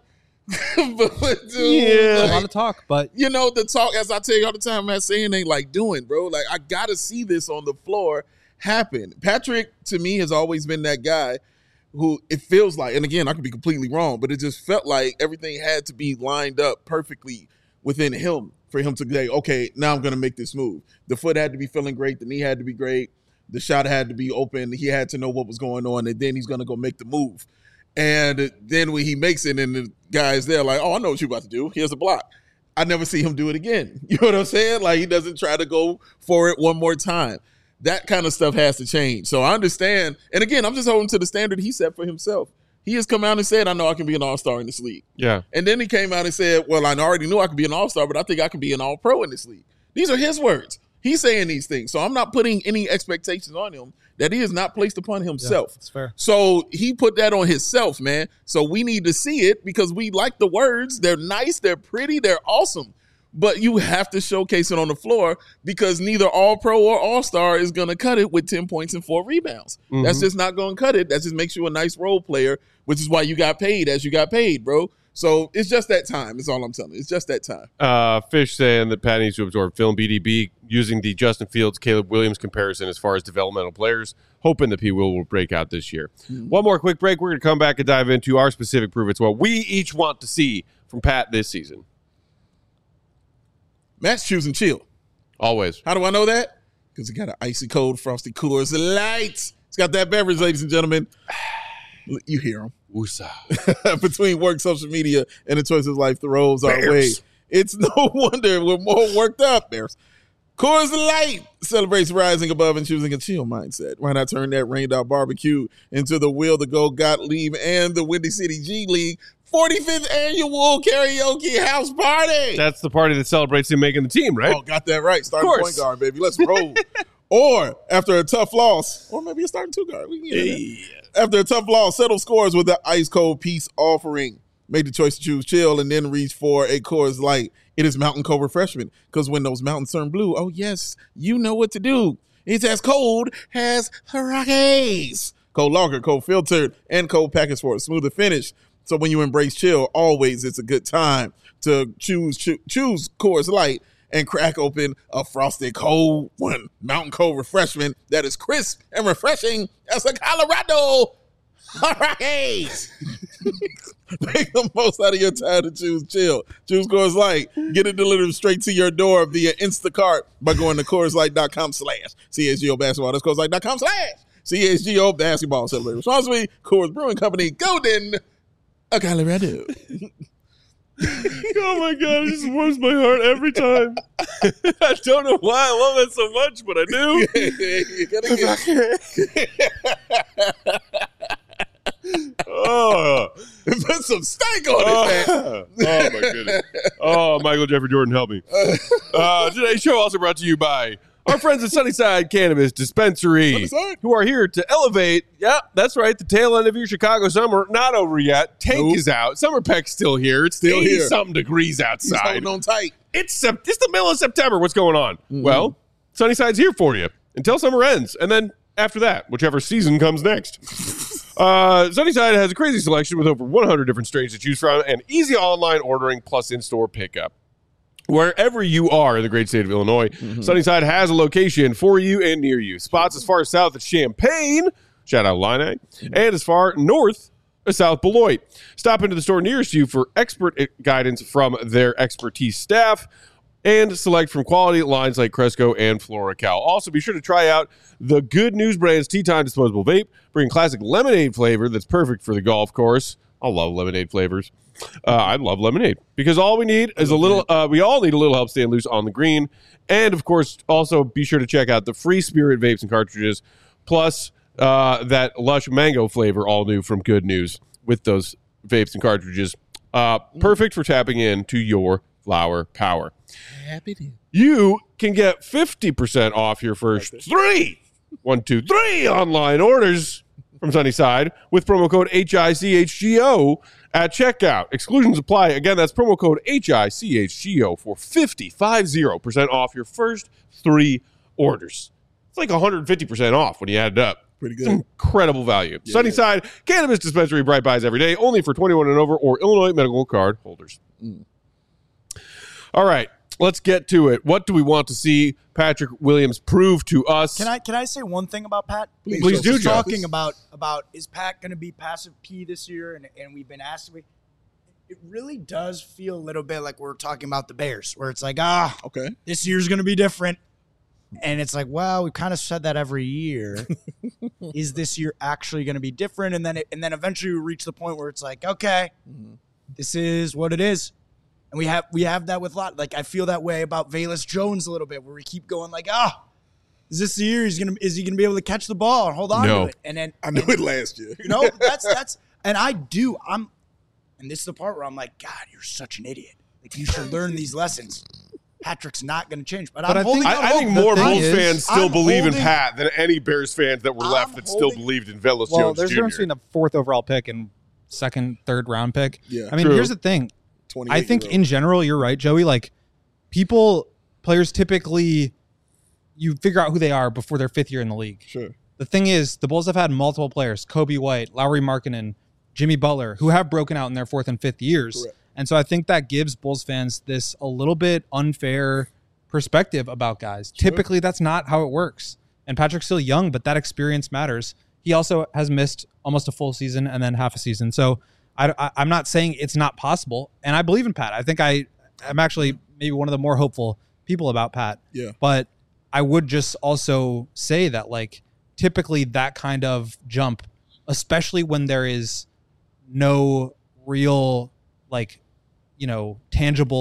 but, dude,
yeah,
like,
a lot of talk, but
you know the talk. As I tell you all the time, man, saying ain't like doing, bro. Like I gotta see this on the floor happen. Patrick, to me, has always been that guy who it feels like, and again, I could be completely wrong, but it just felt like everything had to be lined up perfectly within him for him to say, okay, now I'm gonna make this move. The foot had to be feeling great, the knee had to be great, the shot had to be open. He had to know what was going on, and then he's gonna go make the move. And then when he makes it and the guy's there like, oh, I know what you're about to do. Here's a block. I never see him do it again. You know what I'm saying? Like he doesn't try to go for it one more time. That kind of stuff has to change. So I understand. And again, I'm just holding to the standard he set for himself. He has come out and said, I know I can be an all-star in this league.
Yeah.
And then he came out and said, well, I already knew I could be an all-star, but I think I can be an all-pro in this league. These are his words. He's saying these things. So I'm not putting any expectations on him that he is not placed upon himself.
Yeah, that's fair.
So he put that on himself, man. So we need to see it because we like the words. They're nice. They're pretty. They're awesome. But you have to showcase it on the floor because neither all-pro or all-star is going to cut it with ten points and four rebounds. Mm-hmm. That's just not going to cut it. That just makes you a nice role player, which is why you got paid as you got paid, bro. So it's just that time. That's all I'm telling you. It's just that time.
Uh, Fish saying that Pat needs to absorb film B D B using the Justin Fields, Caleb Williams comparison as far as developmental players, hoping that P. Will will break out this year. Mm-hmm. One more quick break. We're going to come back and dive into our specific proof. It's what we each want to see from Pat this season.
Matt's choosing chill.
Always.
How do I know that? Because he got an icy cold Frosty Coors Light. He's got that beverage, ladies and gentlemen. You hear him.
Woosah.
Between work, social media, and the choices life throws our way. It's no wonder we're more worked up, Bears. Coors Light celebrates rising above and choosing a chill mindset. Why not turn that rained out barbecue into the Will to Go Gottlieb and the Windy City G League forty-fifth annual karaoke house party?
That's the party that celebrates him making the team, right?
Oh, got that right. Starting
Of
point
course.
guard, baby. Let's roll. Or after a tough loss, or maybe a starting two guard. We can get
Hey.
that. After a tough loss, settle scores with the ice cold peace offering. Make the choice to choose chill and then reach for a Coors Light. It is Mountain Cold Refreshment, because when those mountains turn blue, oh yes, you know what to do. It's as cold as the Rockies. Cold lager, cold filtered, and cold packaged for a smoother finish. So when you embrace chill, always it's a good time to choose cho- choose Coors Light and crack open a frosted cold one. Mountain Cold Refreshment that is crisp and refreshing as the Colorado Rockies. Make the most out of your time to choose chill. Choose Coors Light. Get it delivered straight to your door via Instacart by going to CoorsLight.com slash CSGO basketball. That's CoorsLight.com slash CSGO basketball. Celebrate responsibly. Coors Brewing Company, Golden, Colorado.
Oh my god, it just warms my heart every time. I don't know why I love it so much, but I do.
You gotta get
Oh,
put some steak on it, man.
oh, oh my goodness. Oh, Michael Jeffrey Jordan, help me. Uh, today's show also brought to you by our friends at Sunnyside Cannabis Dispensary,
Sunnyside?
who are here to elevate. Yeah, that's right. The tail end of your Chicago summer, not over yet. Tank
Nope.
is out. Summer Peck's still here. It's
Still here.
something degrees
He's
outside.
holding on tight.
It's sep- it's the middle of September. What's going on?
Mm-hmm.
Well, Sunnyside's here for you until summer ends, and then after that, whichever season comes next. uh, Sunnyside has a crazy selection with over one hundred different strains to choose from, and easy online ordering plus in-store pickup. Wherever you are in the great state of Illinois,
Mm-hmm.
Sunnyside has a location for you and near you. Spots as far south as Champaign, shout out Illini, and as far north as South Beloit. Stop into the store nearest you for expert guidance from their expertise staff and select from quality lines like Cresco and FloraCal. Also, be sure to try out the Good News Brand's Tea Time Disposable Vape, bringing classic lemonade flavor that's perfect for the golf course. I love lemonade flavors. Uh, I love lemonade because all we need is a little, uh, we all need a little help staying loose on the green. And of course, also be sure to check out the Free Spirit vapes and cartridges, plus uh, that lush mango flavor, all new from Good News with those vapes and cartridges. Uh, perfect for tapping into your flower power.
Happy to.
You can get fifty percent off your first three, one, two, three online orders from Sunnyside with promo code H I C H G O at checkout. Exclusions apply. Again, that's promo code H I C H G O for fifty percent off your first three orders. It's like one hundred fifty percent off when you add it up.
Pretty
It's
good.
incredible value. Sunnyside Cannabis Dispensary, Bright Buys every day, only for twenty-one and over or Illinois medical card holders.
Mm.
All right, let's get to it. What do we want to see Patrick Williams prove to us?
Can I can I say one thing about Pat?
Please,
Please
Joe.
do,
Just
Joe.
talking about about is Pat going to be passive P this year? And and we've been asked to be. It really does feel a little bit like we're talking about the Bears, where it's like, ah,
Okay.
this year's going to be different. And it's like, well, we kind of said that every year. Is this year actually going to be different? And then it, and then eventually we reach the point where it's like, okay, this is what it is. And we have we have that with a lot. Like I feel that way about Velus Jones a little bit, where we keep going like, ah, is this the year he's gonna is he gonna be able to catch the ball and hold on
No.
to it? And then
I knew it last year.
you know, that's that's and I do. I'm and this is the part where I'm like, God, you're such an idiot. Like you should learn these lessons. Patrick's not going to change, but,
But
I'm
I think-
holding out
I, I think
hope.
more
The thing
Bulls
is,
fans still
I'm
believe in
holding-
Pat than any Bears fans that were
I'm
left that still
holding-
believed in Velus
Well,
Jones
there's a
Junior
difference between a fourth overall pick and second, third round pick.
Yeah.
I mean,
True.
here's the thing. I think
twenty-eight-year-old.
in general, you're right, Joey. Like people, players typically, you figure out who they are before their fifth year in the league.
Sure.
The thing is, the Bulls have had multiple players, Kobe White, Lowry Markkanen, Jimmy Butler, who have broken out in their fourth and fifth years.
Correct.
And so I think that gives Bulls fans this a little bit unfair perspective about guys. Typically, that's not how it works. And Patrick's still young, but that experience matters. He also has missed almost a full season and then half a season. So I, I, I'm not saying it's not possible. And I believe in Pat. I think I, I'm actually maybe one of the more hopeful people about Pat.
Yeah.
But I would just also say that, like, typically that kind of jump, especially when there is no real, like, you know, tangible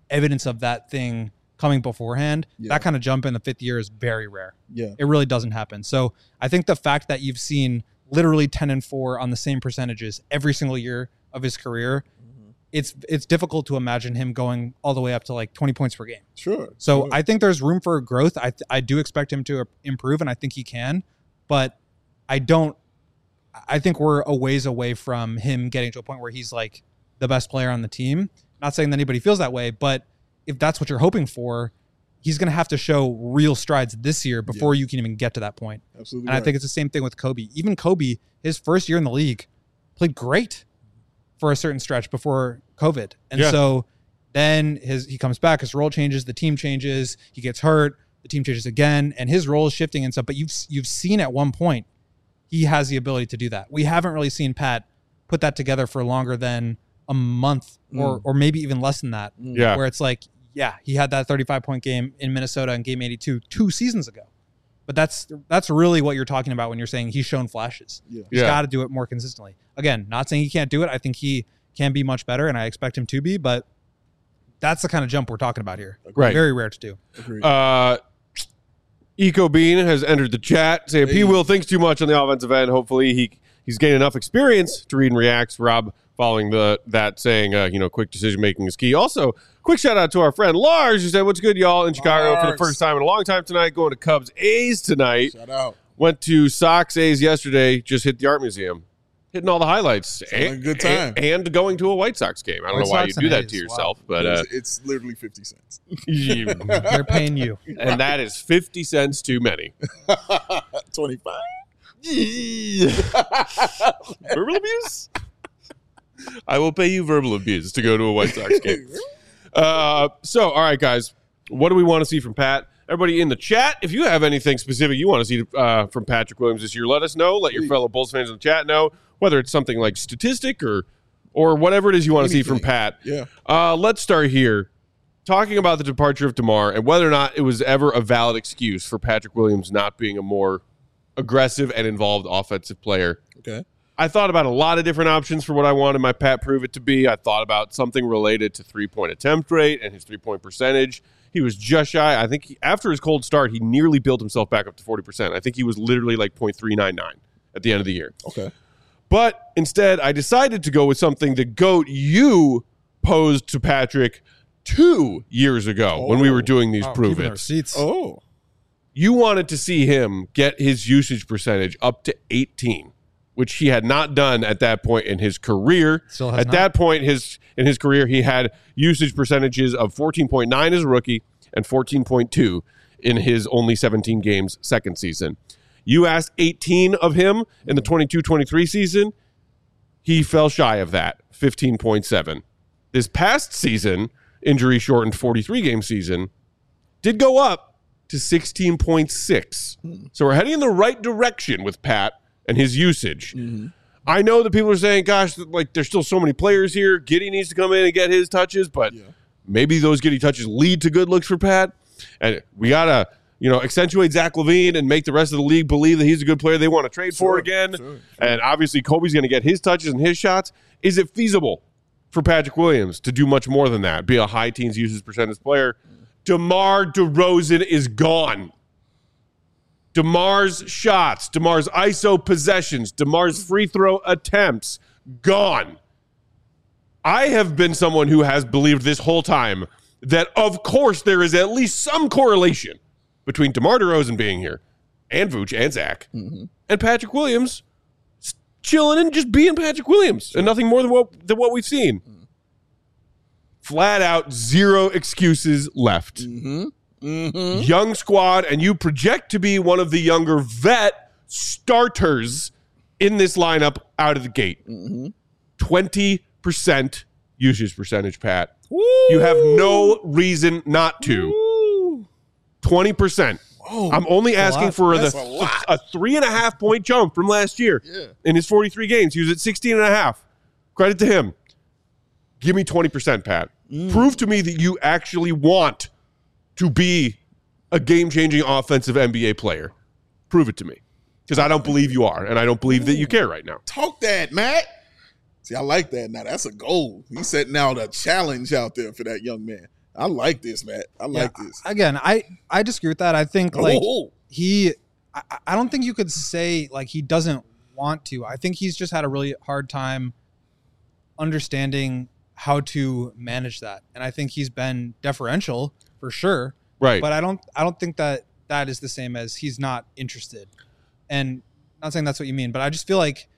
evidence of that thing coming beforehand,
Yeah.
that kind of jump in the fifth year is very rare.
Yeah.
It really doesn't happen. So I think the fact that you've seen literally ten and four on the same percentages every single year of his career, mm-hmm. it's it's difficult to imagine him going all the way up to like twenty points per game.
Sure.
So
sure.
I think there's room for growth. I I do expect him to improve, and I think he can, but I don't. I think we're a ways away from him getting to a point where he's like the best player on the team. Not saying that anybody feels that way, but if that's what you're hoping for, he's going to have to show real strides this year before yeah. you can even get to that point.
Absolutely.
And right. I think it's the same thing with Kobe. Even Kobe, his first year in the league, played great for a certain stretch before COVID. And yeah. so then his he comes back, his role changes, the team changes, he gets hurt, the team changes again, and his role is shifting and stuff. But you've you've seen at one point he has the ability to do that. We haven't really seen Pat put that together for longer than a month mm. or or maybe even less than that.
Yeah.
Where it's like, yeah, he had that thirty-five point game in Minnesota in game eighty-two two seasons ago. But that's that's really what you're talking about when you're saying he's shown flashes.
Yeah.
He's
yeah.
got to do it more consistently. Again, not saying he can't do it. I think he can be much better, and I expect him to be, but that's the kind of jump we're talking about here.
Right.
Very rare to do.
Agreed.
Uh, Eco Bean has entered the chat saying
Hey.
P. Will thinks too much on the offensive end. Hopefully he he's gained enough experience to read and react. Rob following the that saying, uh, you know, quick decision making is key. Also, quick shout out to our friend Lars who said, "What's good, y'all?" In Chicago
Lars.
for the first time in a long time tonight. Going to Cubs A's tonight.
Shout out.
Went to Sox A's yesterday. Just hit the Art Museum, hitting all the highlights.
Having a good time.
and, and going to a White Sox game. I don't
White
know why
Sox
you do
and
that
A's.
to yourself,
Wow.
but uh,
it's, it's literally fifty cents.
you-
They're paying you.
and that is fifty cents too many.
twenty-five.
Verbal abuse? I will pay you verbal abuse to go to a White Sox game. Uh, so, all right, guys. What do we want to see from Pat? Everybody in the chat, if you have anything specific you want to see uh, from Patrick Williams this year, let us know. Let your fellow Bulls fans in the chat know, whether it's something like statistic or or whatever it is you want to see from Pat.
Yeah.
Uh, let's start here. Talking about the departure of DeMar and whether or not it was ever a valid excuse for Patrick Williams not being a more aggressive and involved offensive player.
Okay.
I thought about a lot of different options for what I wanted my Pat Prove It to be. I thought about something related to three-point attempt rate and his three-point percentage. He was just shy. I think he, after his cold start, he nearly built himself back up to forty percent. I think he was literally like point three nine nine at the end of the year.
Okay.
But instead, I decided to go with something the GOAT you posed to Patrick two years ago
Oh.
when we were doing these
Oh,
Prove
keeping the
It.
receipts.
Oh.
You wanted to see him get his usage percentage up to eighteen, which he had not done at that point in his career.
Still has
at
not.
that point his in his career, he had usage percentages of fourteen point nine as a rookie and fourteen point two in his only seventeen games second season. You asked eighteen of him in the twenty-two twenty-three season. He fell shy of that, fifteen point seven. This past season, injury-shortened forty-three game season, did go up to sixteen point six. So we're heading in the right direction with Pat and his usage.
Mm-hmm.
I know that people are saying, gosh, like there's still so many players here. Giddey needs to come in and get his touches, but
Yeah.
maybe those Giddey touches lead to good looks for Pat. And we got to, you know, accentuate Zach LaVine and make the rest of the league believe that he's a good player they want to trade for
Sure,
again.
sure, sure.
And obviously Kobe's going to get his touches and his shots. Is it feasible for Patrick Williams to do much more than that, be a high teens usage percentage player? DeMar DeRozan is gone. DeMar's shots, DeMar's I S O possessions, DeMar's free throw attempts, gone. I have been someone who has believed this whole time that, of course, there is at least some correlation between DeMar DeRozan being here and Vooch and Zach
Mm-hmm.
and Patrick Williams chilling and just being Patrick Williams and nothing more than what, than what we've seen. Flat out, zero excuses left.
Mm-hmm. Mm-hmm.
Young squad, and you project to be one of the younger vet starters in this lineup out of the gate.
Mm-hmm.
twenty percent usage percentage, Pat. You have no reason not to. twenty percent.
Oh,
I'm only asking
lot.
for
That's
the,
a lot.
a three and a half point jump from last year.
Yeah.
In his forty-three games, he was at sixteen and a half. Credit to him. Give me twenty percent, Pat.
Mm.
Prove to me that you actually want to be a game-changing offensive N B A player. Prove it to me. Because I don't believe you are, and I don't believe that you care right now.
Talk that, Matt. See, I like that. Now, that's a goal. He's setting out a challenge out there for that young man. I like this, Matt. I like
Yeah,
this.
Again, I, I disagree with that. I think like
Oh.
he, I, I don't think you could say like he doesn't want to. I think he's just had a really hard time understanding how to manage that. And I think he's been deferential for sure.
Right.
But I don't, I don't think that that is the same as he's not interested. And not saying that's what you mean, but I just feel like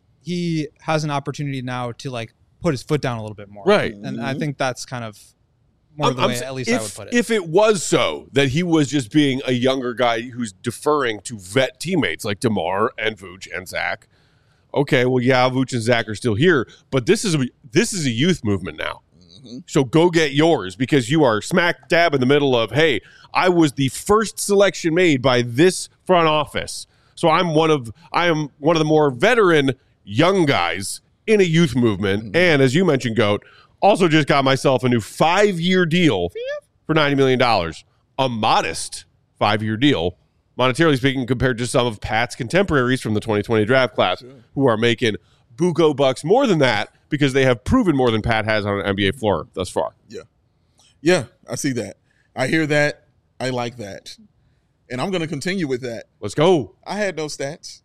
he has an opportunity now to like put his foot down a little bit more.
Right.
And I think that's kind of more
I'm-
the
I'm
way
s-
at least
if,
I would put it.
If it was so that he was just being a younger guy who's deferring to vet teammates like DeMar and Vooch and Zach, okay, well, yeah, Vooch and Zach are still here, but this is a, this is a youth movement now.
Mm-hmm.
So go get yours because you are smack dab in the middle of, hey, I was the first selection made by this front office. So I'm one of I am one of the more veteran young guys in a youth movement.
Mm-hmm.
And as you mentioned, Goat, also just got myself a new five-year deal for ninety million dollars. A modest five-year deal, monetarily speaking, compared to some of Pat's contemporaries from the twenty twenty draft class who are making buco bucks more than that because they have proven more than Pat has on an N B A floor thus far.
Yeah. Yeah, I see that. I hear that. I like that. And I'm going to continue with that.
Let's go.
I had no stats.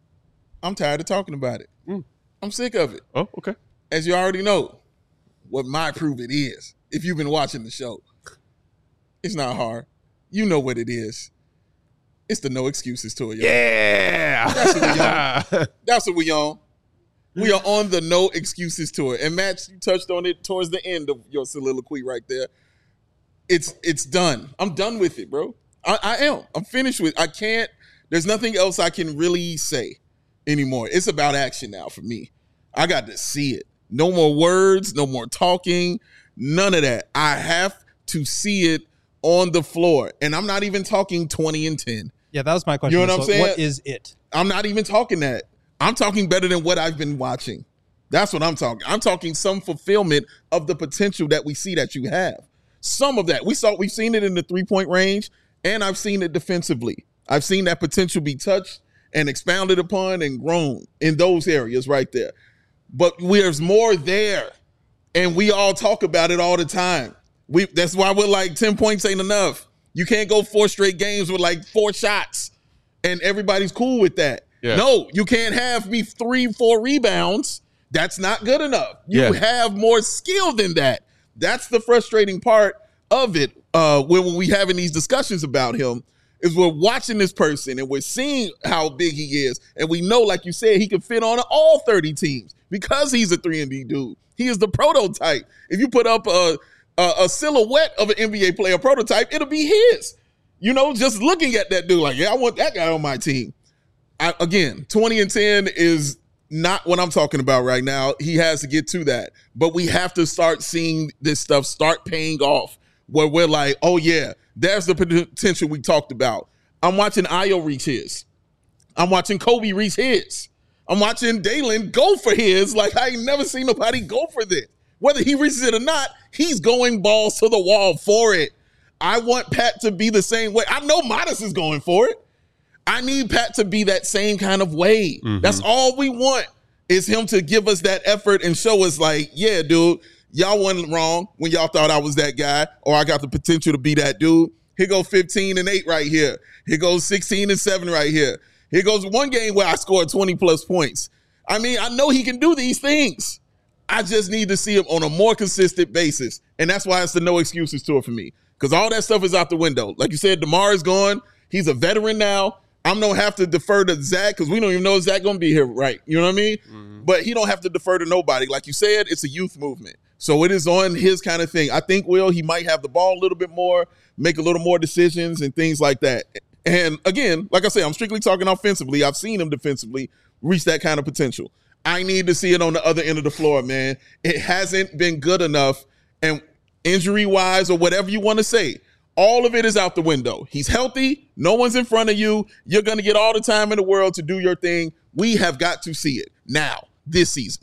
I'm tired of talking about it.
Mm.
I'm sick of it.
Oh, okay.
As you already know, what my prove it is, if you've been watching the show, it's not hard. You know what it is. It's the no excuses tour, y'all.
Yeah.
That's what we on. That's what we on. We are on the no excuses tour. And Matt, you touched on it towards the end of your soliloquy right there. It's it's done. I'm done with it, bro. I, I am. I'm finished with it. I can't, there's nothing else I can really say anymore. It's about action now for me. I got to see it. No more words, no more talking, none of that. I have to see it on the floor. And I'm not even talking twenty and ten.
Yeah, that was my question.
You know what I'm
So
saying?
What is it?
I'm not even talking that. I'm talking better than what I've been watching. That's what I'm talking. I'm talking some fulfillment of the potential that we see that you have. Some of that. We saw we've seen it in the three-point range, and I've seen it defensively. I've seen that potential be touched and expounded upon and grown in those areas right there. But there's more there, and we all talk about it all the time. We that's why we're like ten points ain't enough. You can't go four straight games with like four shots, and everybody's cool with that.
Yeah.
No, you can't have me three, four rebounds. That's not good enough. You
Yeah.
have more skill than that. That's the frustrating part of it. Uh, when, when we having these discussions about him, is we're watching this person and we're seeing how big he is, and we know, like you said, he can fit on all thirty teams because he's a three and D dude. He is the prototype. If you put up a, a a silhouette of an N B A player prototype, it'll be his. You know, just looking at that dude, like, yeah, I want that guy on my team. I, again, twenty and ten is not what I'm talking about right now. He has to get to that. But we have to start seeing this stuff start paying off where we're like, oh, yeah, there's the potential we talked about. I'm watching Ayo reach his. I'm watching Kobe reach his. I'm watching Dalen go for his like I ain't never seen nobody go for this. Whether he reaches it or not, he's going balls to the wall for it. I want Pat to be the same way. I know Modest is going for it. I need Pat to be that same kind of way. Mm-hmm. That's all we want is him to give us that effort and show us like, yeah, dude, y'all wasn't wrong when y'all thought I was that guy or I got the potential to be that dude. Here goes fifteen and eight right here. Here goes sixteen and seven right here. Here goes one game where I scored twenty plus points. I mean, I know he can do these things. I just need to see him on a more consistent basis. And that's why it's the no excuses tour for me. Because all that stuff is out the window. Like you said, DeMar is gone. He's a veteran now. I'm going to have to defer to Zach because we don't even know if Zach going to be here, right? You know what I mean? Mm-hmm. But he don't have to defer to nobody. Like you said, it's a youth movement. So it is on his kind of thing. I think, Will, he might have the ball a little bit more, make a little more decisions and things like that. And again, like I said, I'm strictly talking offensively. I've seen him defensively reach that kind of potential. I need to see it on the other end of the floor, man. It hasn't been good enough. And injury-wise or whatever you want to say, all of it is out the window. He's healthy. No one's in front of you. You're going to get all the time in the world to do your thing. We have got to see it now, this season.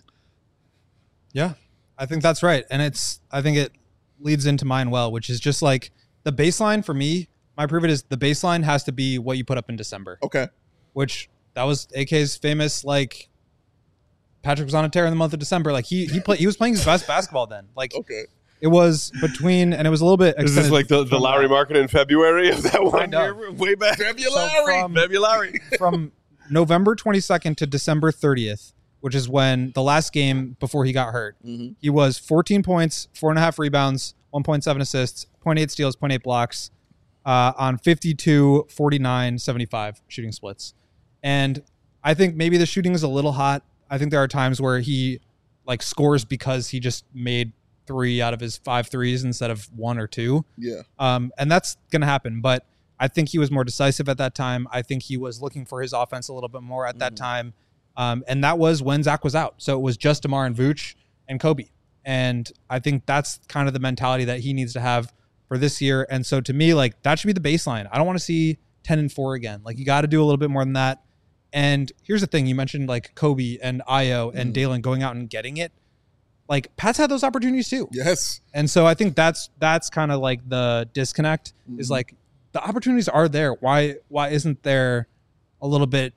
Yeah, I think that's right. And it's, I think it leads into mine well, which is just like the baseline for me, my prove it is the baseline has to be what you put up in December.
Okay.
Which that was A K's famous, like, Patrick was on a tear in the month of December. Like he, he played, he was playing his best basketball then. Like,
okay.
It was between, and it was a little bit.
Is this like the, the Lowry
that.
market in February of that one
Kind of.
year? Way back.
February.
So from-
February.
from November twenty-second to December thirtieth, which is when the last game before he got hurt,
Mm-hmm.
he was fourteen points, four and a half rebounds, one point seven assists, zero point eight steals, zero point eight blocks uh, on fifty-two, forty-nine, seventy-five shooting splits. And I think maybe the shooting is a little hot. I think there are times where he like scores because he just made three out of his five threes instead of one or two.
Yeah.
Um, and that's going to happen. But I think he was more decisive at that time. I think he was looking for his offense a little bit more at that time. Um, and that was when Zach was out. So it was just DeMar and Vooch and Kobe. And I think that's kind of the mentality that he needs to have for this year. And so to me, like that should be the baseline. I don't want to see ten and four again. Like you got to do a little bit more than that. And here's the thing. You mentioned like Kobe and Io and
Mm.
Dalen going out and getting it. Like Pat's had those opportunities too.
Yes.
And so I think that's that's kind of like the disconnect is
Mhm.
like the opportunities are there. Why why isn't there a little bit,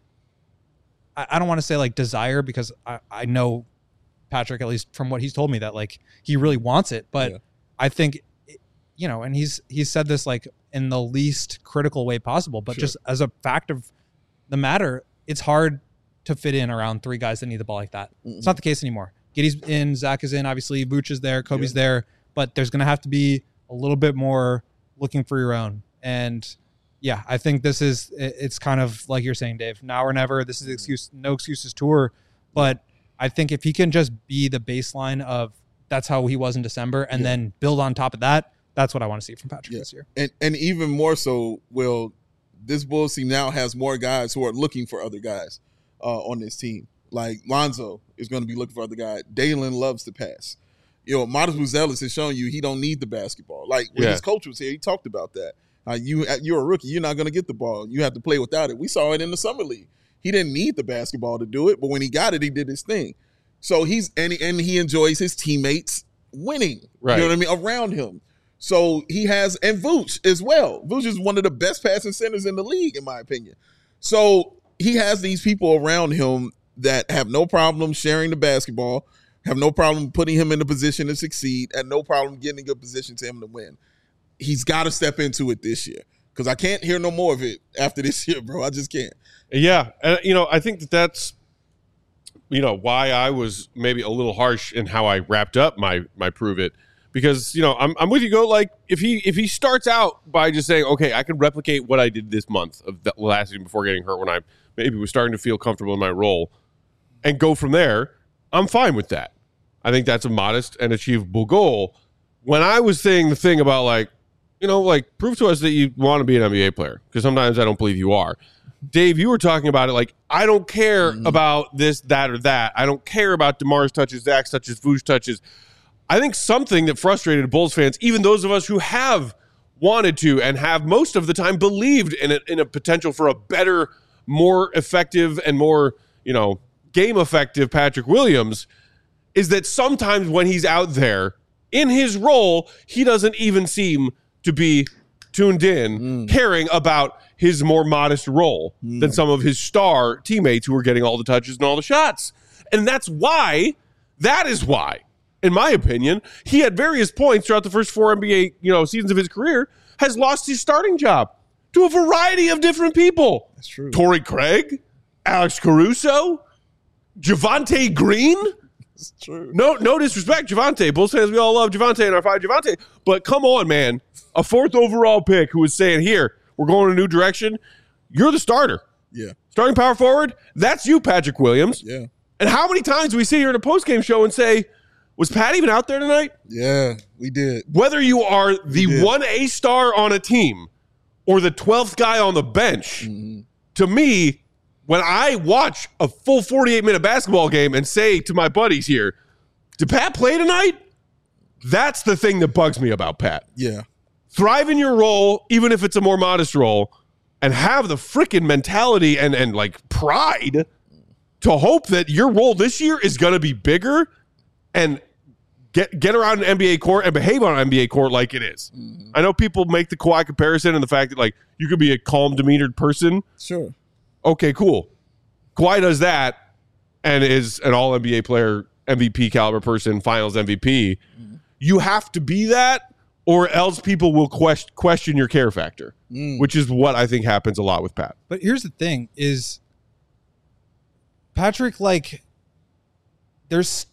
I, I don't want to say like desire because I, I know Patrick, at least from what he's told me, that like he really wants it. But
Yeah.
I think, you know, and he's he's said this like in the least critical way possible, but
Sure.
just as a fact of the matter, it's hard to fit in around three guys that need the ball like that.
Mm-mm.
It's not the case anymore. Giddy's in, Zach is in, obviously Vooch is there, Kobe's there, but there's going to have to be a little bit more looking for your own. And yeah, I think this is, it- it's kind of like you're saying, Dave, now or never. This is the excuse, no excuses tour. But I think if he can just be the baseline of that's how he was in December and
Yeah.
then build on top of that, that's what I want to see from Patrick
Yeah.
this year.
And and even more so, Will, this Bulls team now has more guys who are looking for other guys uh, on this team. Like Lonzo is going to be looking for other guys. Dalen loves to pass. You know, Modest Buzelis has shown you he don't need the basketball. Like when
Yeah.
his coach was here, he talked about that. Uh, you you're a rookie. You're not going to get the ball. You have to play without it. We saw it in the summer league. He didn't need the basketball to do it, but when he got it, he did his thing. So he's and he, and he enjoys his teammates winning.
Right.
You know what I mean? Around him. So he has, and Vooch as well. Vooch is one of the best passing centers in the league, in my opinion. So he has these people around him that have no problem sharing the basketball, have no problem putting him in a position to succeed, and no problem getting a good position to him to win. He's got to step into it this year because I can't hear no more of it after this year, bro. I just can't.
Yeah, and you know, I think that that's, you know, why I was maybe a little harsh in how I wrapped up my my prove it, because you know I'm I'm with you. Go like if he if he starts out by just saying, okay, I can replicate what I did this month of the last season before getting hurt when I maybe was starting to feel comfortable in my role, and go from there, I'm fine with that. I think that's a modest and achievable goal. When I was saying the thing about like, you know, like prove to us that you want to be an N B A player, because sometimes I don't believe you are. Dave, you were talking about it like, I don't care
Mm-hmm.
about this, that, or that. I don't care about DeMar's touches, Zach's touches, Vooch touches. I think something that frustrated Bulls fans, even those of us who have wanted to and have most of the time believed in a, in a potential for a better, more effective and more, you know, game effective Patrick Williams, is that sometimes when he's out there in his role, he doesn't even seem to be tuned in, caring about his more modest role than some of his star teammates who are getting all the touches and all the shots. And that's why, that is why, in my opinion, he at various points throughout the first four N B A, you know, seasons of his career has lost his starting job to a variety of different people.
That's true.
Torrey Craig, Alex Caruso, Javante Green.
It's true.
No, no disrespect, Javante. Bulls fans, we all love Javante and our five Javante. But come on, man. A fourth overall pick who is saying, here, we're going in a new direction. You're the starter.
Yeah.
Starting power forward, that's you, Patrick Williams.
Yeah.
And how many times do we sit here in a postgame show and say, was Pat even out there tonight?
Yeah. We did.
Whether you are the
did.
one A star on a team or the twelfth guy on the bench, to me, when I watch a full forty-eight minute basketball game and say to my buddies here, did Pat play tonight? That's the thing that bugs me about Pat.
Yeah.
Thrive in your role, even if it's a more modest role, and have the freaking mentality and, and like pride to hope that your role this year is going to be bigger and get get around an N B A court and behave on an N B A court like it is.
Mm-hmm.
I know people make the Kawhi comparison and the fact that like you could be a calm, demeanored person.
Sure.
Okay, cool. Kawhi does that and is an all N B A player, M V P caliber person, finals M V P. you have to be that, or else people will question question your care factor, mm. which is what I think happens a lot with Pat.
But here's the thing: is Patrick like? There's,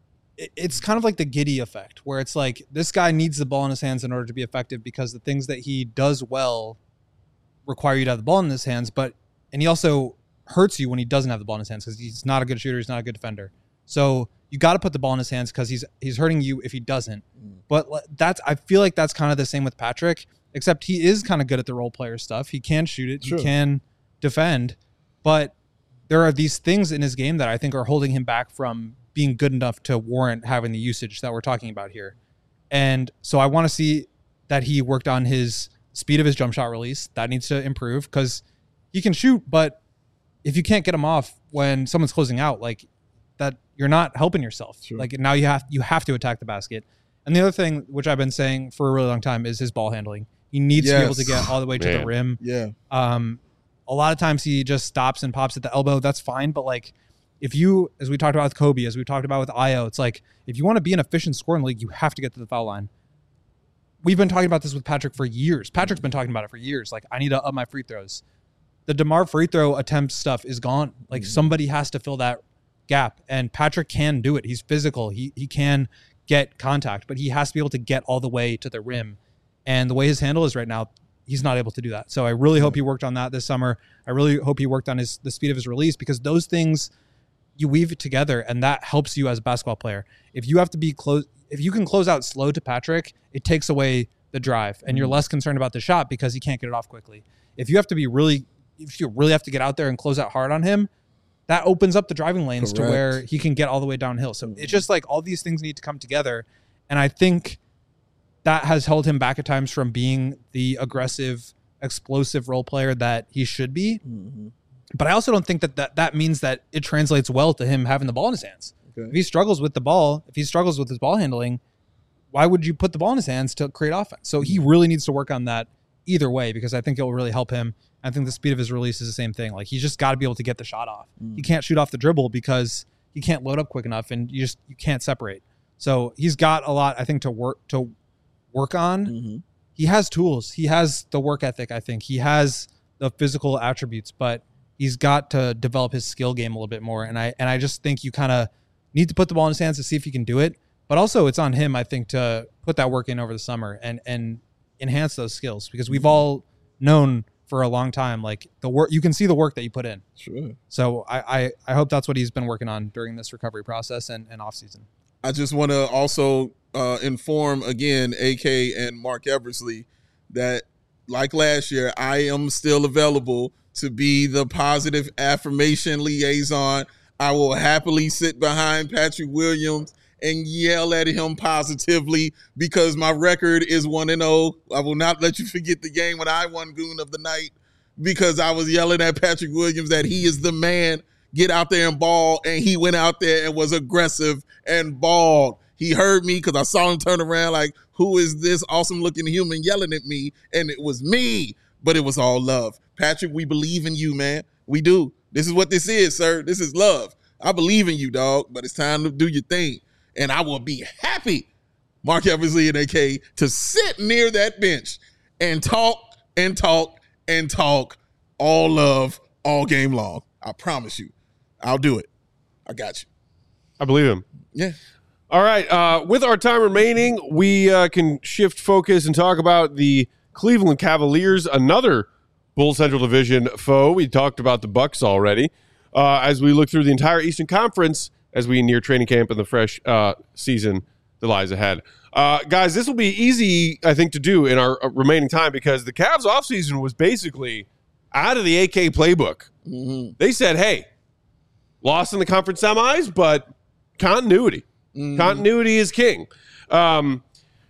it's kind of like the Giddy effect, where it's like this guy needs the ball in his hands in order to be effective because the things that he does well require you to have the ball in his hands, but and he also hurts you when he doesn't have the ball in his hands because he's not a good shooter, he's not a good defender. So you got to put the ball in his hands because he's he's hurting you if he doesn't. Mm. But that's I feel like that's kind of the same with Patrick, except he is kind of good at the role player stuff. He can shoot it, True. He can defend, but there are these things in his game that I think are holding him back from being good enough to warrant having the usage that we're talking about here. And so I want to see that he worked on his speed of his jump shot release. That needs to improve because he can shoot, but if you can't get him off when someone's closing out, like that, you're not helping yourself. Sure. Like now you have you have to attack the basket. And the other thing, which I've been saying for a really long time, is his ball handling. He needs yes. to be able to get all the way to Man. the rim.
Yeah.
Um, a lot of times he just stops and pops at the elbow. That's fine, but like if you, as we talked about with Kobe, as we talked about with Ayo, it's like if you want to be an efficient scoring league, you have to get to the foul line. We've been talking about this with Patrick for years. Patrick's been talking about it for years. Like, I need to up my free throws. The DeMar free throw attempt stuff is gone. Like, mm-hmm. somebody has to fill that gap, and Patrick can do it. He's physical. He he can get contact, but he has to be able to get all the way to the rim. And the way his handle is right now, he's not able to do that. So I really hope he worked on that this summer. I really hope he worked on his the speed of his release, because those things, you weave it together, and that helps you as a basketball player. If you have to be close, if you can close out slow to Patrick, it takes away the drive, and you're less concerned about the shot because he can't get it off quickly. If you have to be really, if you really have to get out there and close out hard on him, that opens up the driving lanes Correct. to where he can get all the way downhill. So it's just like all these things need to come together, and I think that has held him back at times from being the aggressive, explosive role player that he should be. Mm-hmm. But I also don't think that, that that means that it translates well to him having the ball in his hands. Okay. If he struggles with the ball, if he struggles with his ball handling, why would you put the ball in his hands to create offense? So he really needs to work on that either way, because I think it will really help him. I think the speed of his release is the same thing. Like, he's just got to be able to get the shot off. Mm. He can't shoot off the dribble because he can't load up quick enough, and you just you can't separate. So he's got a lot, I think, to work to work on. Mm-hmm. He has tools. He has the work ethic, I think. He has the physical attributes, but he's got to develop his skill game a little bit more. And I and I just think you kind of need to put the ball in his hands to see if he can do it. But also it's on him, I think, to put that work in over the summer and and enhance those skills, because we've all known for a long time, like, the work, you can see the work that you put in.
Sure.
So I, I, I hope that's what he's been working on during this recovery process and, and off season.
I just want to also uh, inform again, A K and Mark Eversley, that like last year, I am still available to be the positive affirmation liaison. I will happily sit behind Patrick Williams and yell at him positively, because my record is one and oh. I will not let you forget the game when I won Goon of the Night, because I was yelling at Patrick Williams that he is the man. Get out there and ball. And he went out there and was aggressive and balled. He heard me because I saw him turn around like, who is this awesome looking human yelling at me? And it was me, but it was all love. Patrick, we believe in you, man. We do. This is what this is, sir. This is love. I believe in you, dog, but it's time to do your thing. And I will be happy, Mark Eversley and A K, to sit near that bench and talk and talk and talk all love all game long. I promise you. I'll do it. I got you.
I believe him.
Yeah.
All right. Uh, with our time remaining, we uh, can shift focus and talk about the Cleveland Cavaliers, another Bulls Central Division foe. We talked about the Bucks already. Uh, as we look through the entire Eastern Conference, as we near training camp and the fresh uh, season that lies ahead. Uh, guys, this will be easy, I think, to do in our remaining time, because the Cavs offseason was basically out of the A K playbook. Mm-hmm. They said, hey, lost in the conference semis, but continuity. Mm-hmm. Continuity is king. Um,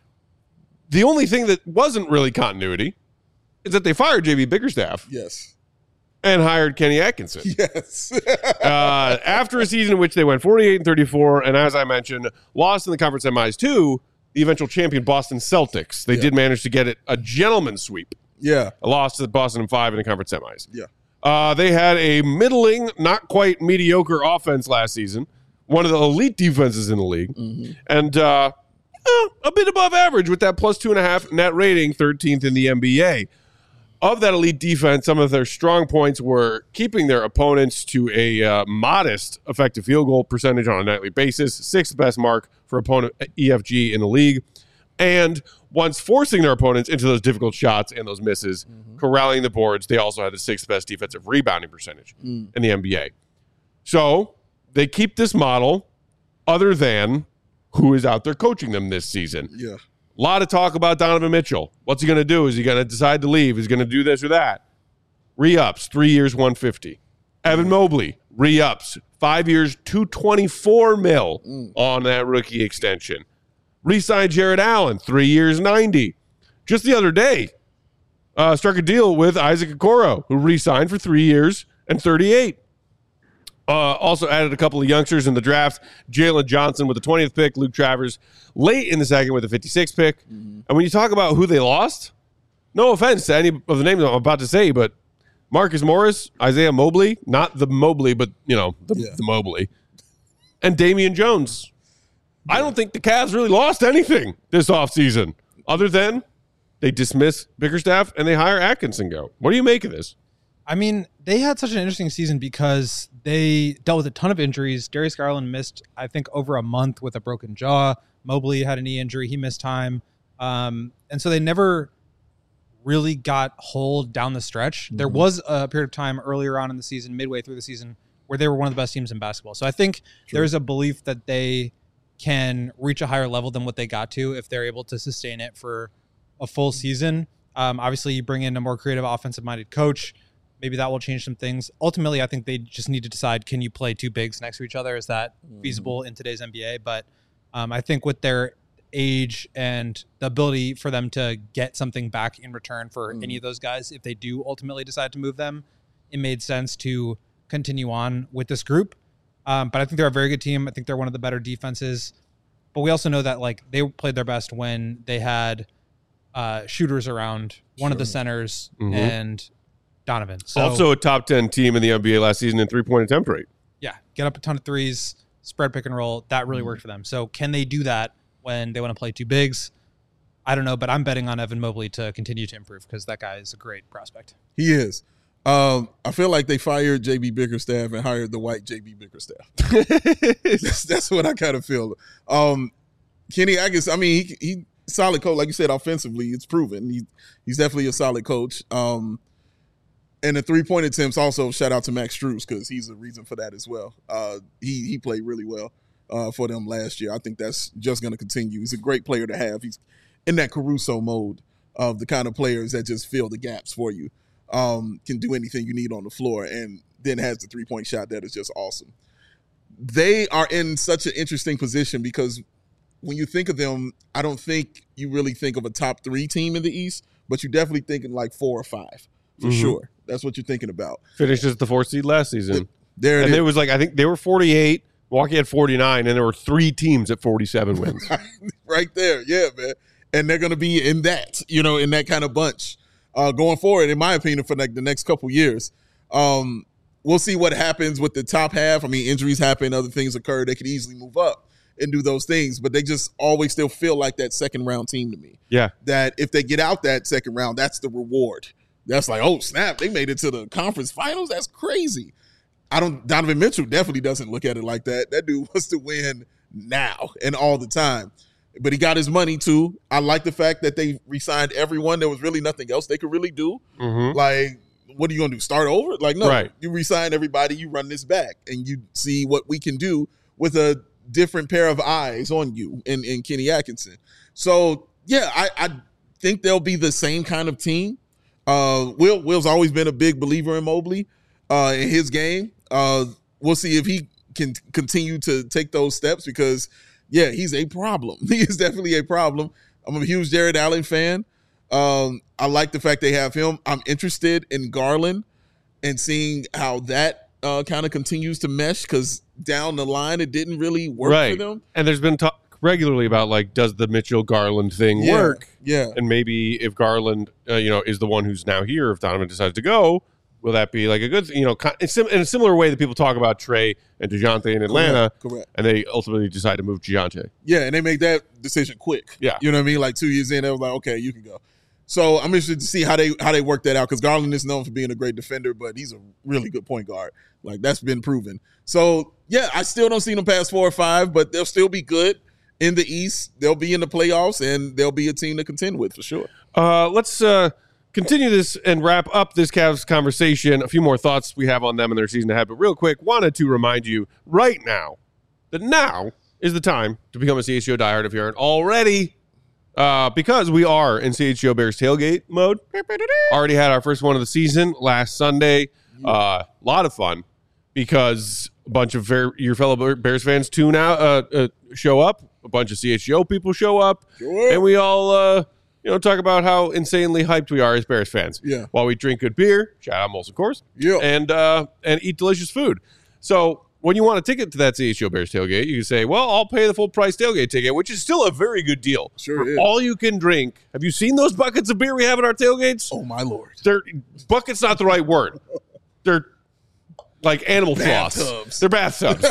the only thing that wasn't really continuity is that they fired J B Bickerstaff.
Yes.
And hired Kenny Atkinson.
Yes.
uh, after a season in which they went forty-eight and thirty-four, and as I mentioned, lost in the conference semis to the eventual champion Boston Celtics. They yeah. did manage to get it a gentleman's sweep.
Yeah.
A loss to Boston in five in the conference semis.
Yeah.
Uh, they had a middling, not quite mediocre offense last season. One of the elite defenses in the league. Mm-hmm. And uh, eh, a bit above average with that plus two and a half net rating, thirteenth in the N B A. Of that elite defense, some of their strong points were keeping their opponents to a uh, modest effective field goal percentage on a nightly basis, sixth best mark for opponent E F G in the league, and once forcing their opponents into those difficult shots and those misses, mm-hmm. corralling the boards, they also had the sixth best defensive rebounding percentage mm. in the N B A. So they keep this model other than who is out there coaching them this season.
Yeah.
A lot of talk about Donovan Mitchell. What's he going to do? Is he going to decide to leave? Is he going to do this or that? Re-ups, three years, one hundred fifty. Evan Mobley, re-ups, five years, two hundred twenty-four mil mm. on that rookie extension. Re-signed Jared Allen, three years, ninety. Just the other day, uh, struck a deal with Isaac Okoro, who re-signed for three years and thirty-eight. Uh, also added a couple of youngsters in the draft. Jalen Johnson with the twentieth pick. Luke Travers late in the second with the fifty-sixth pick. Mm-hmm. And when you talk about who they lost, no offense to any of the names I'm about to say, but Marcus Morris, Isaiah Mobley, not the Mobley, but, you know, the, yeah. the Mobley, and Damian Jones. Yeah. I don't think the Cavs really lost anything this offseason other than they dismiss Bickerstaff and they hire Atkinson go. What do you make of this?
I mean, they had such an interesting season because they dealt with a ton of injuries. Darius Garland missed, I think, over a month with a broken jaw. Mobley had a knee injury. He missed time. Um, and so they never really got whole down the stretch. Mm-hmm. There was a period of time earlier on in the season, midway through the season, where they were one of the best teams in basketball. So I think True. There's a belief that they can reach a higher level than what they got to if they're able to sustain it for a full season. Um, obviously, you bring in a more creative, offensive-minded coach. Maybe that will change some things. Ultimately, I think they just need to decide, can you play two bigs next to each other? Is that mm. feasible in today's N B A? But um, I think with their age and the ability for them to get something back in return for mm. any of those guys, if they do ultimately decide to move them, it made sense to continue on with this group. Um, but I think they're a very good team. I think they're one of the better defenses. But we also know that like they played their best when they had uh, shooters around one sure. of the centers mm-hmm. and Donovan. So,
also a top ten team in the N B A last season in three-point attempt rate.
Yeah, get up a ton of threes, spread pick and roll. That really worked for them. So can they do that when they want to play two bigs? I don't know, but I'm betting on Evan Mobley to continue to improve because that guy is a great prospect.
He is. Um, I feel like they fired J B Bickerstaff and hired the white J B Bickerstaff. that's, that's what I kind of feel. Um, Kenny, I guess, I mean, he, he solid coach. Like you said, offensively, it's proven. He, he's definitely a solid coach. Um, And the three-point attempts also, shout out to Max Strus because he's a reason for that as well. Uh, he he played really well uh, for them last year. I think that's just going to continue. He's a great player to have. He's in that Caruso mode of the kind of players that just fill the gaps for you, um, can do anything you need on the floor, and then has the three-point shot that is just awesome. They are in such an interesting position because when you think of them, I don't think you really think of a top three team in the East, but you're definitely thinking like four or five for mm-hmm. sure. That's what you're thinking about.
Finished as the fourth seed last season.
There it
and
is.
it was like, I think they were forty-eight, Milwaukee had forty-nine, and there were three teams at forty-seven wins.
Right there. Yeah, man. And they're going to be in that, you know, in that kind of bunch uh, going forward, in my opinion, for like the next couple years. Um, we'll see what happens with the top half. I mean, injuries happen, other things occur. They could easily move up and do those things, but they just always still feel like that second round team to me.
Yeah.
That if they get out that second round, that's the reward. That's like, oh, snap, they made it to the conference finals? That's crazy. I don't, Donovan Mitchell definitely doesn't look at it like that. That dude wants to win now and all the time. But he got his money, too. I like the fact that they re-signed everyone. There was really nothing else they could really do. Mm-hmm. Like, what are you going to do, start over? Like, no, right. You re-sign everybody, you run this back, and you see what we can do with a different pair of eyes on you in, in Kenny Atkinson. So, yeah, I, I think they'll be the same kind of team. Uh, Will Will's always been a big believer in Mobley uh, in his game. Uh, we'll see if he can continue to take those steps because, yeah, he's a problem. He is definitely a problem. I'm a huge Jared Allen fan. Um, I like the fact they have him. I'm interested in Garland and seeing how that uh, kind of continues to mesh because down the line it didn't really work
right.
for them.
And there's been talk regularly about like, does the Mitchell Garland thing
yeah,
work?
Yeah.
And maybe if Garland, uh, you know, is the one who's now here, if Donovan decides to go, Will that be like a good, you know, in a similar way that people talk about Trey and DeJounte in Atlanta,
Correct, correct.
and they ultimately decide to move DeJounte?
Yeah, and they make that decision quick.
Yeah.
You know what I mean? Like two years in, they was like, okay, you can go. So I'm interested to see how they how they work that out because Garland is known for being a great defender, but he's a really good point guard. Like, that's been proven. So, yeah, I still don't see them past four or five, but they'll still be good in the East. They'll be in the playoffs, and they'll be a team to contend with for sure.
Uh, let's uh, continue this and wrap up this Cavs conversation. A few more thoughts we have on them and their season ahead. But real quick, wanted to remind you right now that now is the time to become a C H G O diehard if you aren't already. Uh, because we are in C H G O Bears tailgate mode. Already had our first one of the season last Sunday. A uh, lot of fun because a bunch of ver- your fellow Bears fans tune out, uh, uh, show up. A bunch of C H G O people show up.
Sure.
And we all, uh, you know, talk about how insanely hyped we are as Bears fans.
Yeah.
While we drink good beer, shout out Molson Coors.
Yeah.
And, uh, and eat delicious food. So when you want a ticket to that C H G O Bears tailgate, you can say, well, I'll pay the full price tailgate ticket, which is still a very good deal.
Sure
For
is.
all you can drink. Have you seen those buckets of beer we have at our tailgates?
Oh, my Lord.
They're bucket's not the right word. They're like animal floss.
Bathtubs.
They're bathtubs.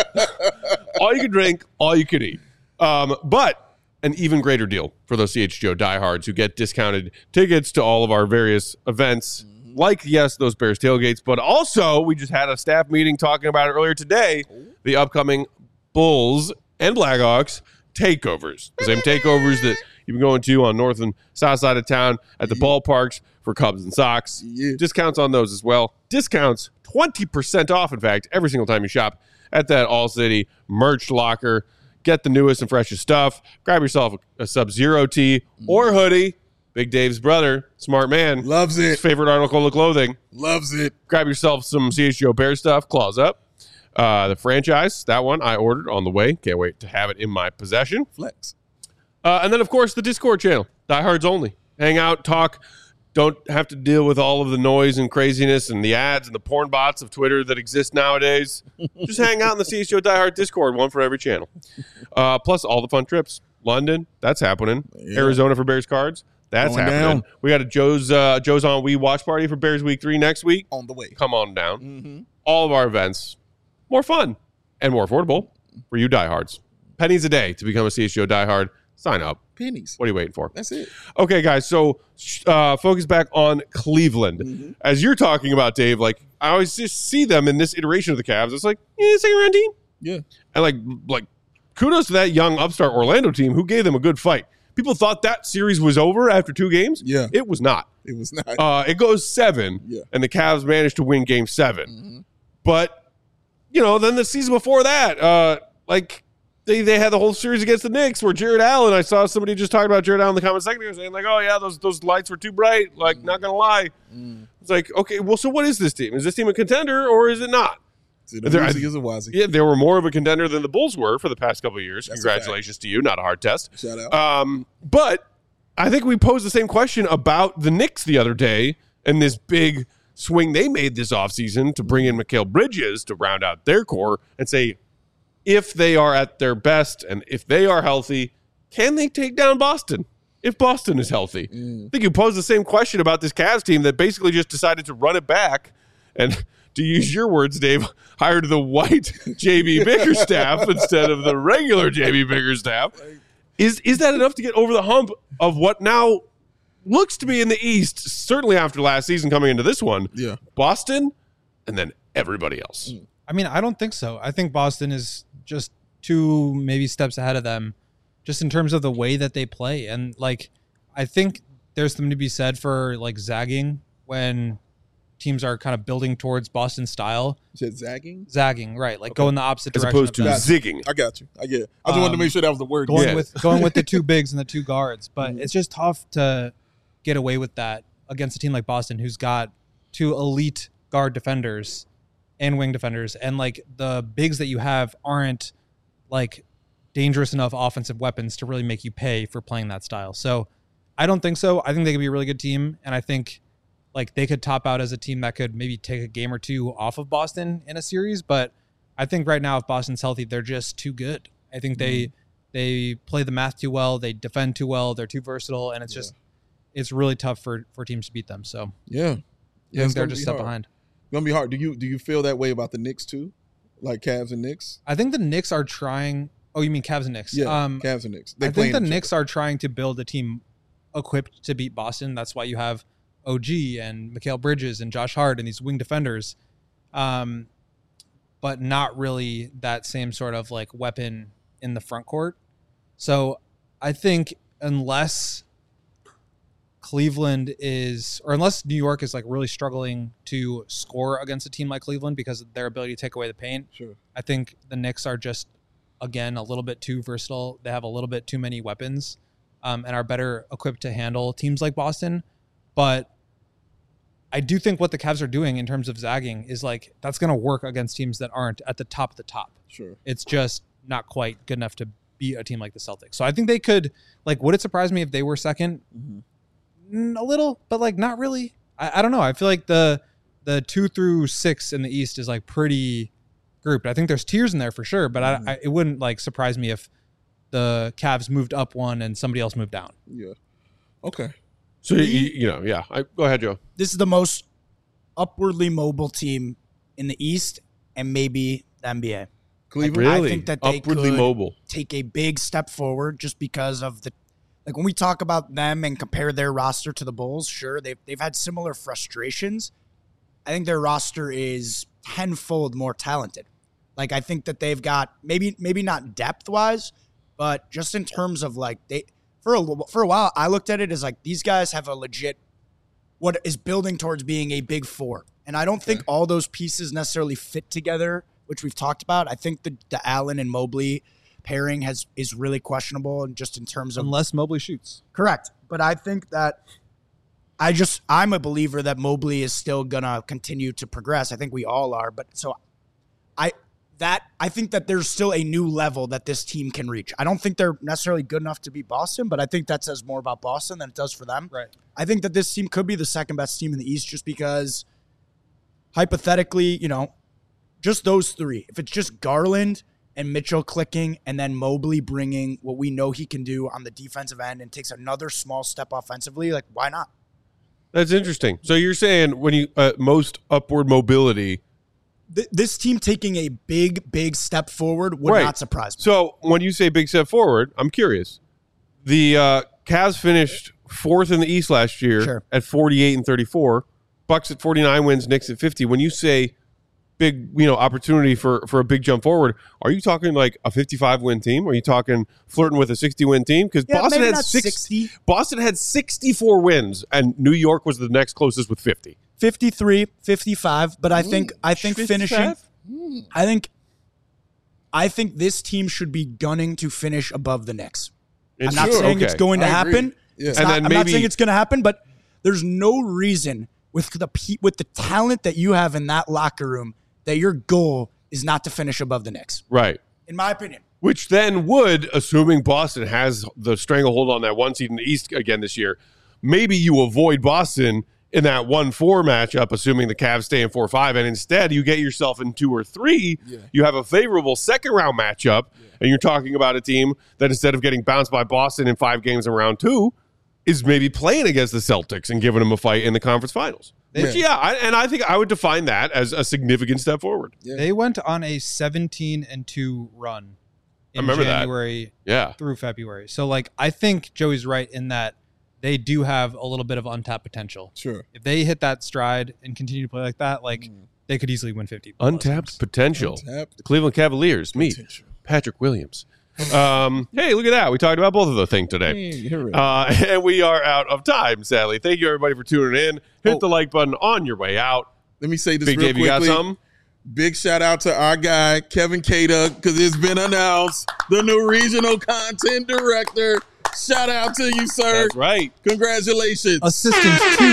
All you can drink, all you can eat. Um, but an even greater deal for those C H G O diehards who get discounted tickets to all of our various events, like, yes, those Bears tailgates, but also we just had a staff meeting talking about it earlier today, the upcoming Bulls and Blackhawks takeovers. The same takeovers that you've been going to on north and south side of town at the
Yeah.
ballparks for Cubs and Sox.
Yeah.
Discounts on those as well. Discounts, twenty percent off, in fact, every single time you shop at that All-City merch locker. Get the newest and freshest stuff. Grab yourself a, a Sub-Zero tee or hoodie. Big Dave's brother, smart man.
Loves
His
it.
favorite article of clothing.
Loves it.
Grab yourself some C H G O Bear stuff. Claws up. Uh, the franchise, that one I ordered on the way. Can't wait to have it in my possession.
Flex.
Uh, and then, of course, the Discord channel. Diehards only. Hang out, talk. Don't have to deal with all of the noise and craziness and the ads and the porn bots of Twitter that exist nowadays. Just hang out in the C H G O Diehard Discord, one for every channel. Uh, plus, all the fun trips. London, that's happening.
Yeah.
Arizona for Bears cards. That's
Going
happening.
down.
We got a Joe's uh, Joe's on We watch party for Bears Week three next week.
On the way.
Come on down.
Mm-hmm.
All of our events, more fun and more affordable for you diehards. Pennies a day to become a C H G O diehard. Sign up.
Pennies.
What are you waiting for?
That's it.
Okay, guys. So uh, focus back on Cleveland.
Mm-hmm.
As you're talking about, Dave, like I always just see them in this iteration of the Cavs. It's like, yeah, second round team.
Yeah.
And like, like kudos to that young upstart Orlando team who gave them a good fight. People thought that series was over after two games.
Yeah.
It was not.
It was not.
Uh, it goes seven,
Yeah.
and the Cavs managed to win game seven.
Mm-hmm.
But, you know, then the season before that, uh, like, they, they had the whole series against the Knicks where Jared Allen, I saw somebody just talking about Jared Allen in the comment section saying, like, oh, yeah, those those lights were too bright. Like,
Mm.
not going to lie.
Mm.
It's like, okay, well, so what is this team? Is this team a contender or is it not?
Is it a
There-
woozy? Is a wazi?
Yeah, they were more of a contender than the Bulls were for the past couple of years.
That's a
Congratulations to you. Not a hard test.
Shout out.
Um, but I think we posed the same question about the Knicks the other day and this big swing they made this offseason to bring in Mikal Bridges to round out their core and say, if they are at their best and if they are healthy, can they take down Boston? If Boston is healthy.
Mm.
I think you posed the same question about this Cavs team that basically just decided to run it back and, to use your words, Dave, hired the white J B Bickerstaff instead of the regular J B Bickerstaff. Is is that enough to get over the hump of what now looks to be in the East, certainly after last season coming into this one?
Yeah.
Boston and then everybody else.
I mean, I don't think so. I think Boston is just two maybe steps ahead of them just in terms of the way that they play. And like, I think there's something to be said for like zagging when teams are kind of building towards Boston style.
You said zagging?
Zagging, right. Like
Okay.
go in the opposite
As
direction.
opposed to
of them.
zigging.
I got you. I get it. I just wanted to
Um,
make sure that was the word.
going
Yeah.
with going with the two bigs and the two guards. But
Mhm.
it's just tough to get away with that against a team like Boston, who's got two elite guard defenders and wing defenders, and like the bigs that you have aren't like dangerous enough offensive weapons to really make you pay for playing that style. So I don't think so. I think they could be a really good team, and I think like they could top out as a team that could maybe take a game or two off of Boston in a series. But I think right now, if Boston's healthy, they're just too good. I think they
Mm-hmm.
they play the math too well, they defend too well, they're too versatile, and it's
Yeah.
just it's really tough for for teams to beat them. So
Yeah.
I
it's
think they're
gonna
just
be
a step
hard.
behind.
It's gonna be hard. Do you do you feel that way about the Knicks too, like Cavs and Knicks?
I think the Knicks are trying. Oh, you mean Cavs and Knicks?
Yeah,
Um,
Cavs and Knicks. They
I think
playing
the
each
Knicks are trying to build a team equipped to beat Boston. That's why you have O G and Mikal Bridges and Josh Hart and these wing defenders, um, but not really that same sort of like weapon in the front court. So I think unless Cleveland is, or unless New York is like really struggling to score against a team like Cleveland because of their ability to take away the paint,
Sure.
I think the Knicks are just, again, a little bit too versatile. They have a little bit too many weapons um, and are better equipped to handle teams like Boston. But I do think what the Cavs are doing in terms of zagging is like, that's going to work against teams that aren't at the top of the top.
Sure.
It's just not quite good enough to beat a team like the Celtics. So I think they could, like, would it surprise me if they were second?
Mm-hmm.
Mm, a little, but like not really. I, I don't know. I feel like the the two through six in the East is like pretty grouped. I think there's tiers in there for sure, but
Mm-hmm.
I, I, it wouldn't like surprise me if the Cavs moved up one and somebody else moved down.
Yeah. Okay.
So you, you know, yeah. I, go ahead, Joe.
This is the most upwardly mobile team in the East and maybe the N B A.
Cleveland.
I
Really?
think that they
Upwardly
could
mobile.
take a big step forward just because of the, like when we talk about them and compare their roster to the Bulls, sure, they've, they've had similar frustrations. I think their roster is tenfold more talented. Like, I think that they've got maybe, maybe not depth wise, but just in terms of like they, for a, for a while, I looked at it as like, these guys have a legit, what is building towards being a big four. And I don't think all those pieces necessarily fit together, which we've talked about. I think the, the Allen and Mobley pairing has is really questionable, and just in terms of
Unless Mobley shoots.
correct. But I think that I just I'm a believer that Mobley is still gonna continue to progress. I think we all are. But so I that I think that there's still a new level that this team can reach. I don't think they're necessarily good enough to beat Boston, but I think that says more about Boston than it does for them.
Right.
I think that this team could be the second best team in the East just because hypothetically, you know, just those three. If it's just Garland and Mitchell clicking and then Mobley bringing what we know he can do on the defensive end and takes another small step offensively, like why not?
That's interesting. So you're saying when you uh, most upward mobility.
Th- this team taking a big, big step forward would
Right.
not surprise me.
So when you say big step forward, I'm curious. The uh, Cavs finished fourth in the East last year
Sure.
at forty-eight and thirty-four. Bucks at forty-nine wins, Knicks at fifty. When you say big, you know, opportunity for, for a big jump forward, are you talking like a fifty-five win team? Are you talking flirting with a sixty win team? Because
Yeah,
Boston
maybe
had
not
six,
sixty.
Boston had sixty-four wins, and New York was the next closest with fifty.
fifty-three, fifty-five, but I think I think finishing
fifty-five?
I think I think this team should be gunning to finish above the Knicks. I'm not
Sure,
saying
okay.
it's going to
I agree.
happen.
Yeah.
It's
And
not-
then
I'm not
maybe-
saying it's going to happen, but there's no reason with the pe- with the talent that you have in that locker room that your goal is not to finish above the Knicks.
Right.
In my opinion.
Which then would, assuming Boston has the stranglehold on that one seed in the East again this year, maybe you avoid Boston in that one four matchup, assuming the Cavs stay in four five, and instead you get yourself in two or three.
Yeah.
You have a favorable second round matchup, and you're talking about a team that instead of getting bounced by Boston in five games in round two, is maybe playing against the Celtics and giving them a fight in the conference finals.
Yeah.
Which, yeah, I, and I think I would define that as a significant step forward.
Yeah.
They went on a seventeen and two run in
I remember that.
January
Yeah.
through February. So like I think Joey's right in that they do have a little bit of untapped potential.
Sure.
If they hit that stride and continue to play like that, like
Mm.
they could easily win fifty.
Untapped potential.
Untapped
The Cleveland Cavaliers meet
potential.
Patrick Williams. Um, hey, look at that. We talked about both of those things today.
Here it is.
Uh, and we are out of time, sadly. Thank you, everybody, for tuning in. Hit
Oh.
the like button on your way out.
Let me say this
Big
real
Dave, you got
quickly.
something?
Big shout out to our guy, Kevin Cada, because it's been announced, the new regional content director. Shout out to you, sir.
That's right.
Congratulations.
Assistant two.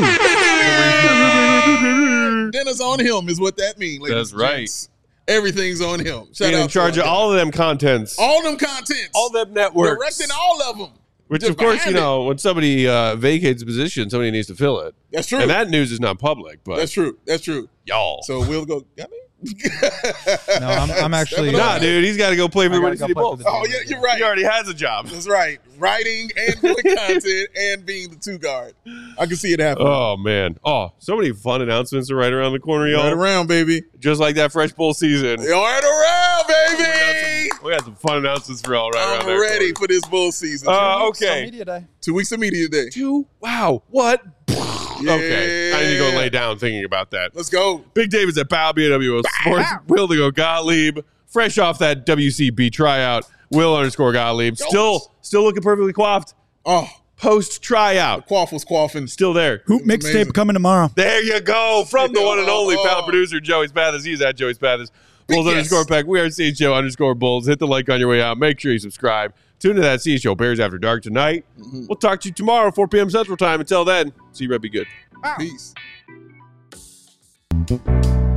Dinner's on him is what that means. ladies
That's
and
right.
gents. Everything's on him. Shout
Being
out
in charge
to
of
our
all of them contents.
guy. all them contents.
all them networks.
Directing all of them.
Which,
Just
of course, you
behind it.
know, when somebody uh, vacates a position, somebody needs to fill it.
That's true.
And that news is not public, but
That's true. That's true.
y'all.
So we'll go. I mean,
No, I'm, I'm actually
Nah, dude, he's got to go play for
I
the
gotta
Windy
go
City
play for
Bulls.
the
Oh, yeah, you're right.
He already has a job.
That's right. Writing and doing content and being the two guard. I can see it happening.
Oh, man. Oh, so many fun announcements are right around the corner, y'all.
Right around, baby.
Just like that Fresh Bowl season.
You're right around,
We got
baby.
some, we got some fun announcements for y'all right around
I'm
there.
ready
Corey.
for this bull season.
Uh,
Social
okay.
media day.
Two weeks of media day.
Two. Wow. What? Okay. I need to go
Yeah.
lay down thinking about that.
Let's go.
Big David's at Bow B W O Sports. Will to go Gottlieb. Fresh off that W C B tryout. Will underscore Gottlieb. Still, still looking perfectly coiffed.
Oh,
Post tryout.
Quaff was quaffing.
Still there.
Hoop
It was amazing.
mixtape coming tomorrow.
There you go. From the one and only
Oh.
pound producer, Joey Spathis. He's at Joey Spathis. Bulls
Yes.
underscore pack. We are C H O underscore Bulls. Hit the like on your way out. Make sure you subscribe. Tune to that C H O Bears After Dark tonight.
Mm-hmm.
We'll talk to you tomorrow, four p.m. Central Time. Until then, see you, Red. Be good.
Peace.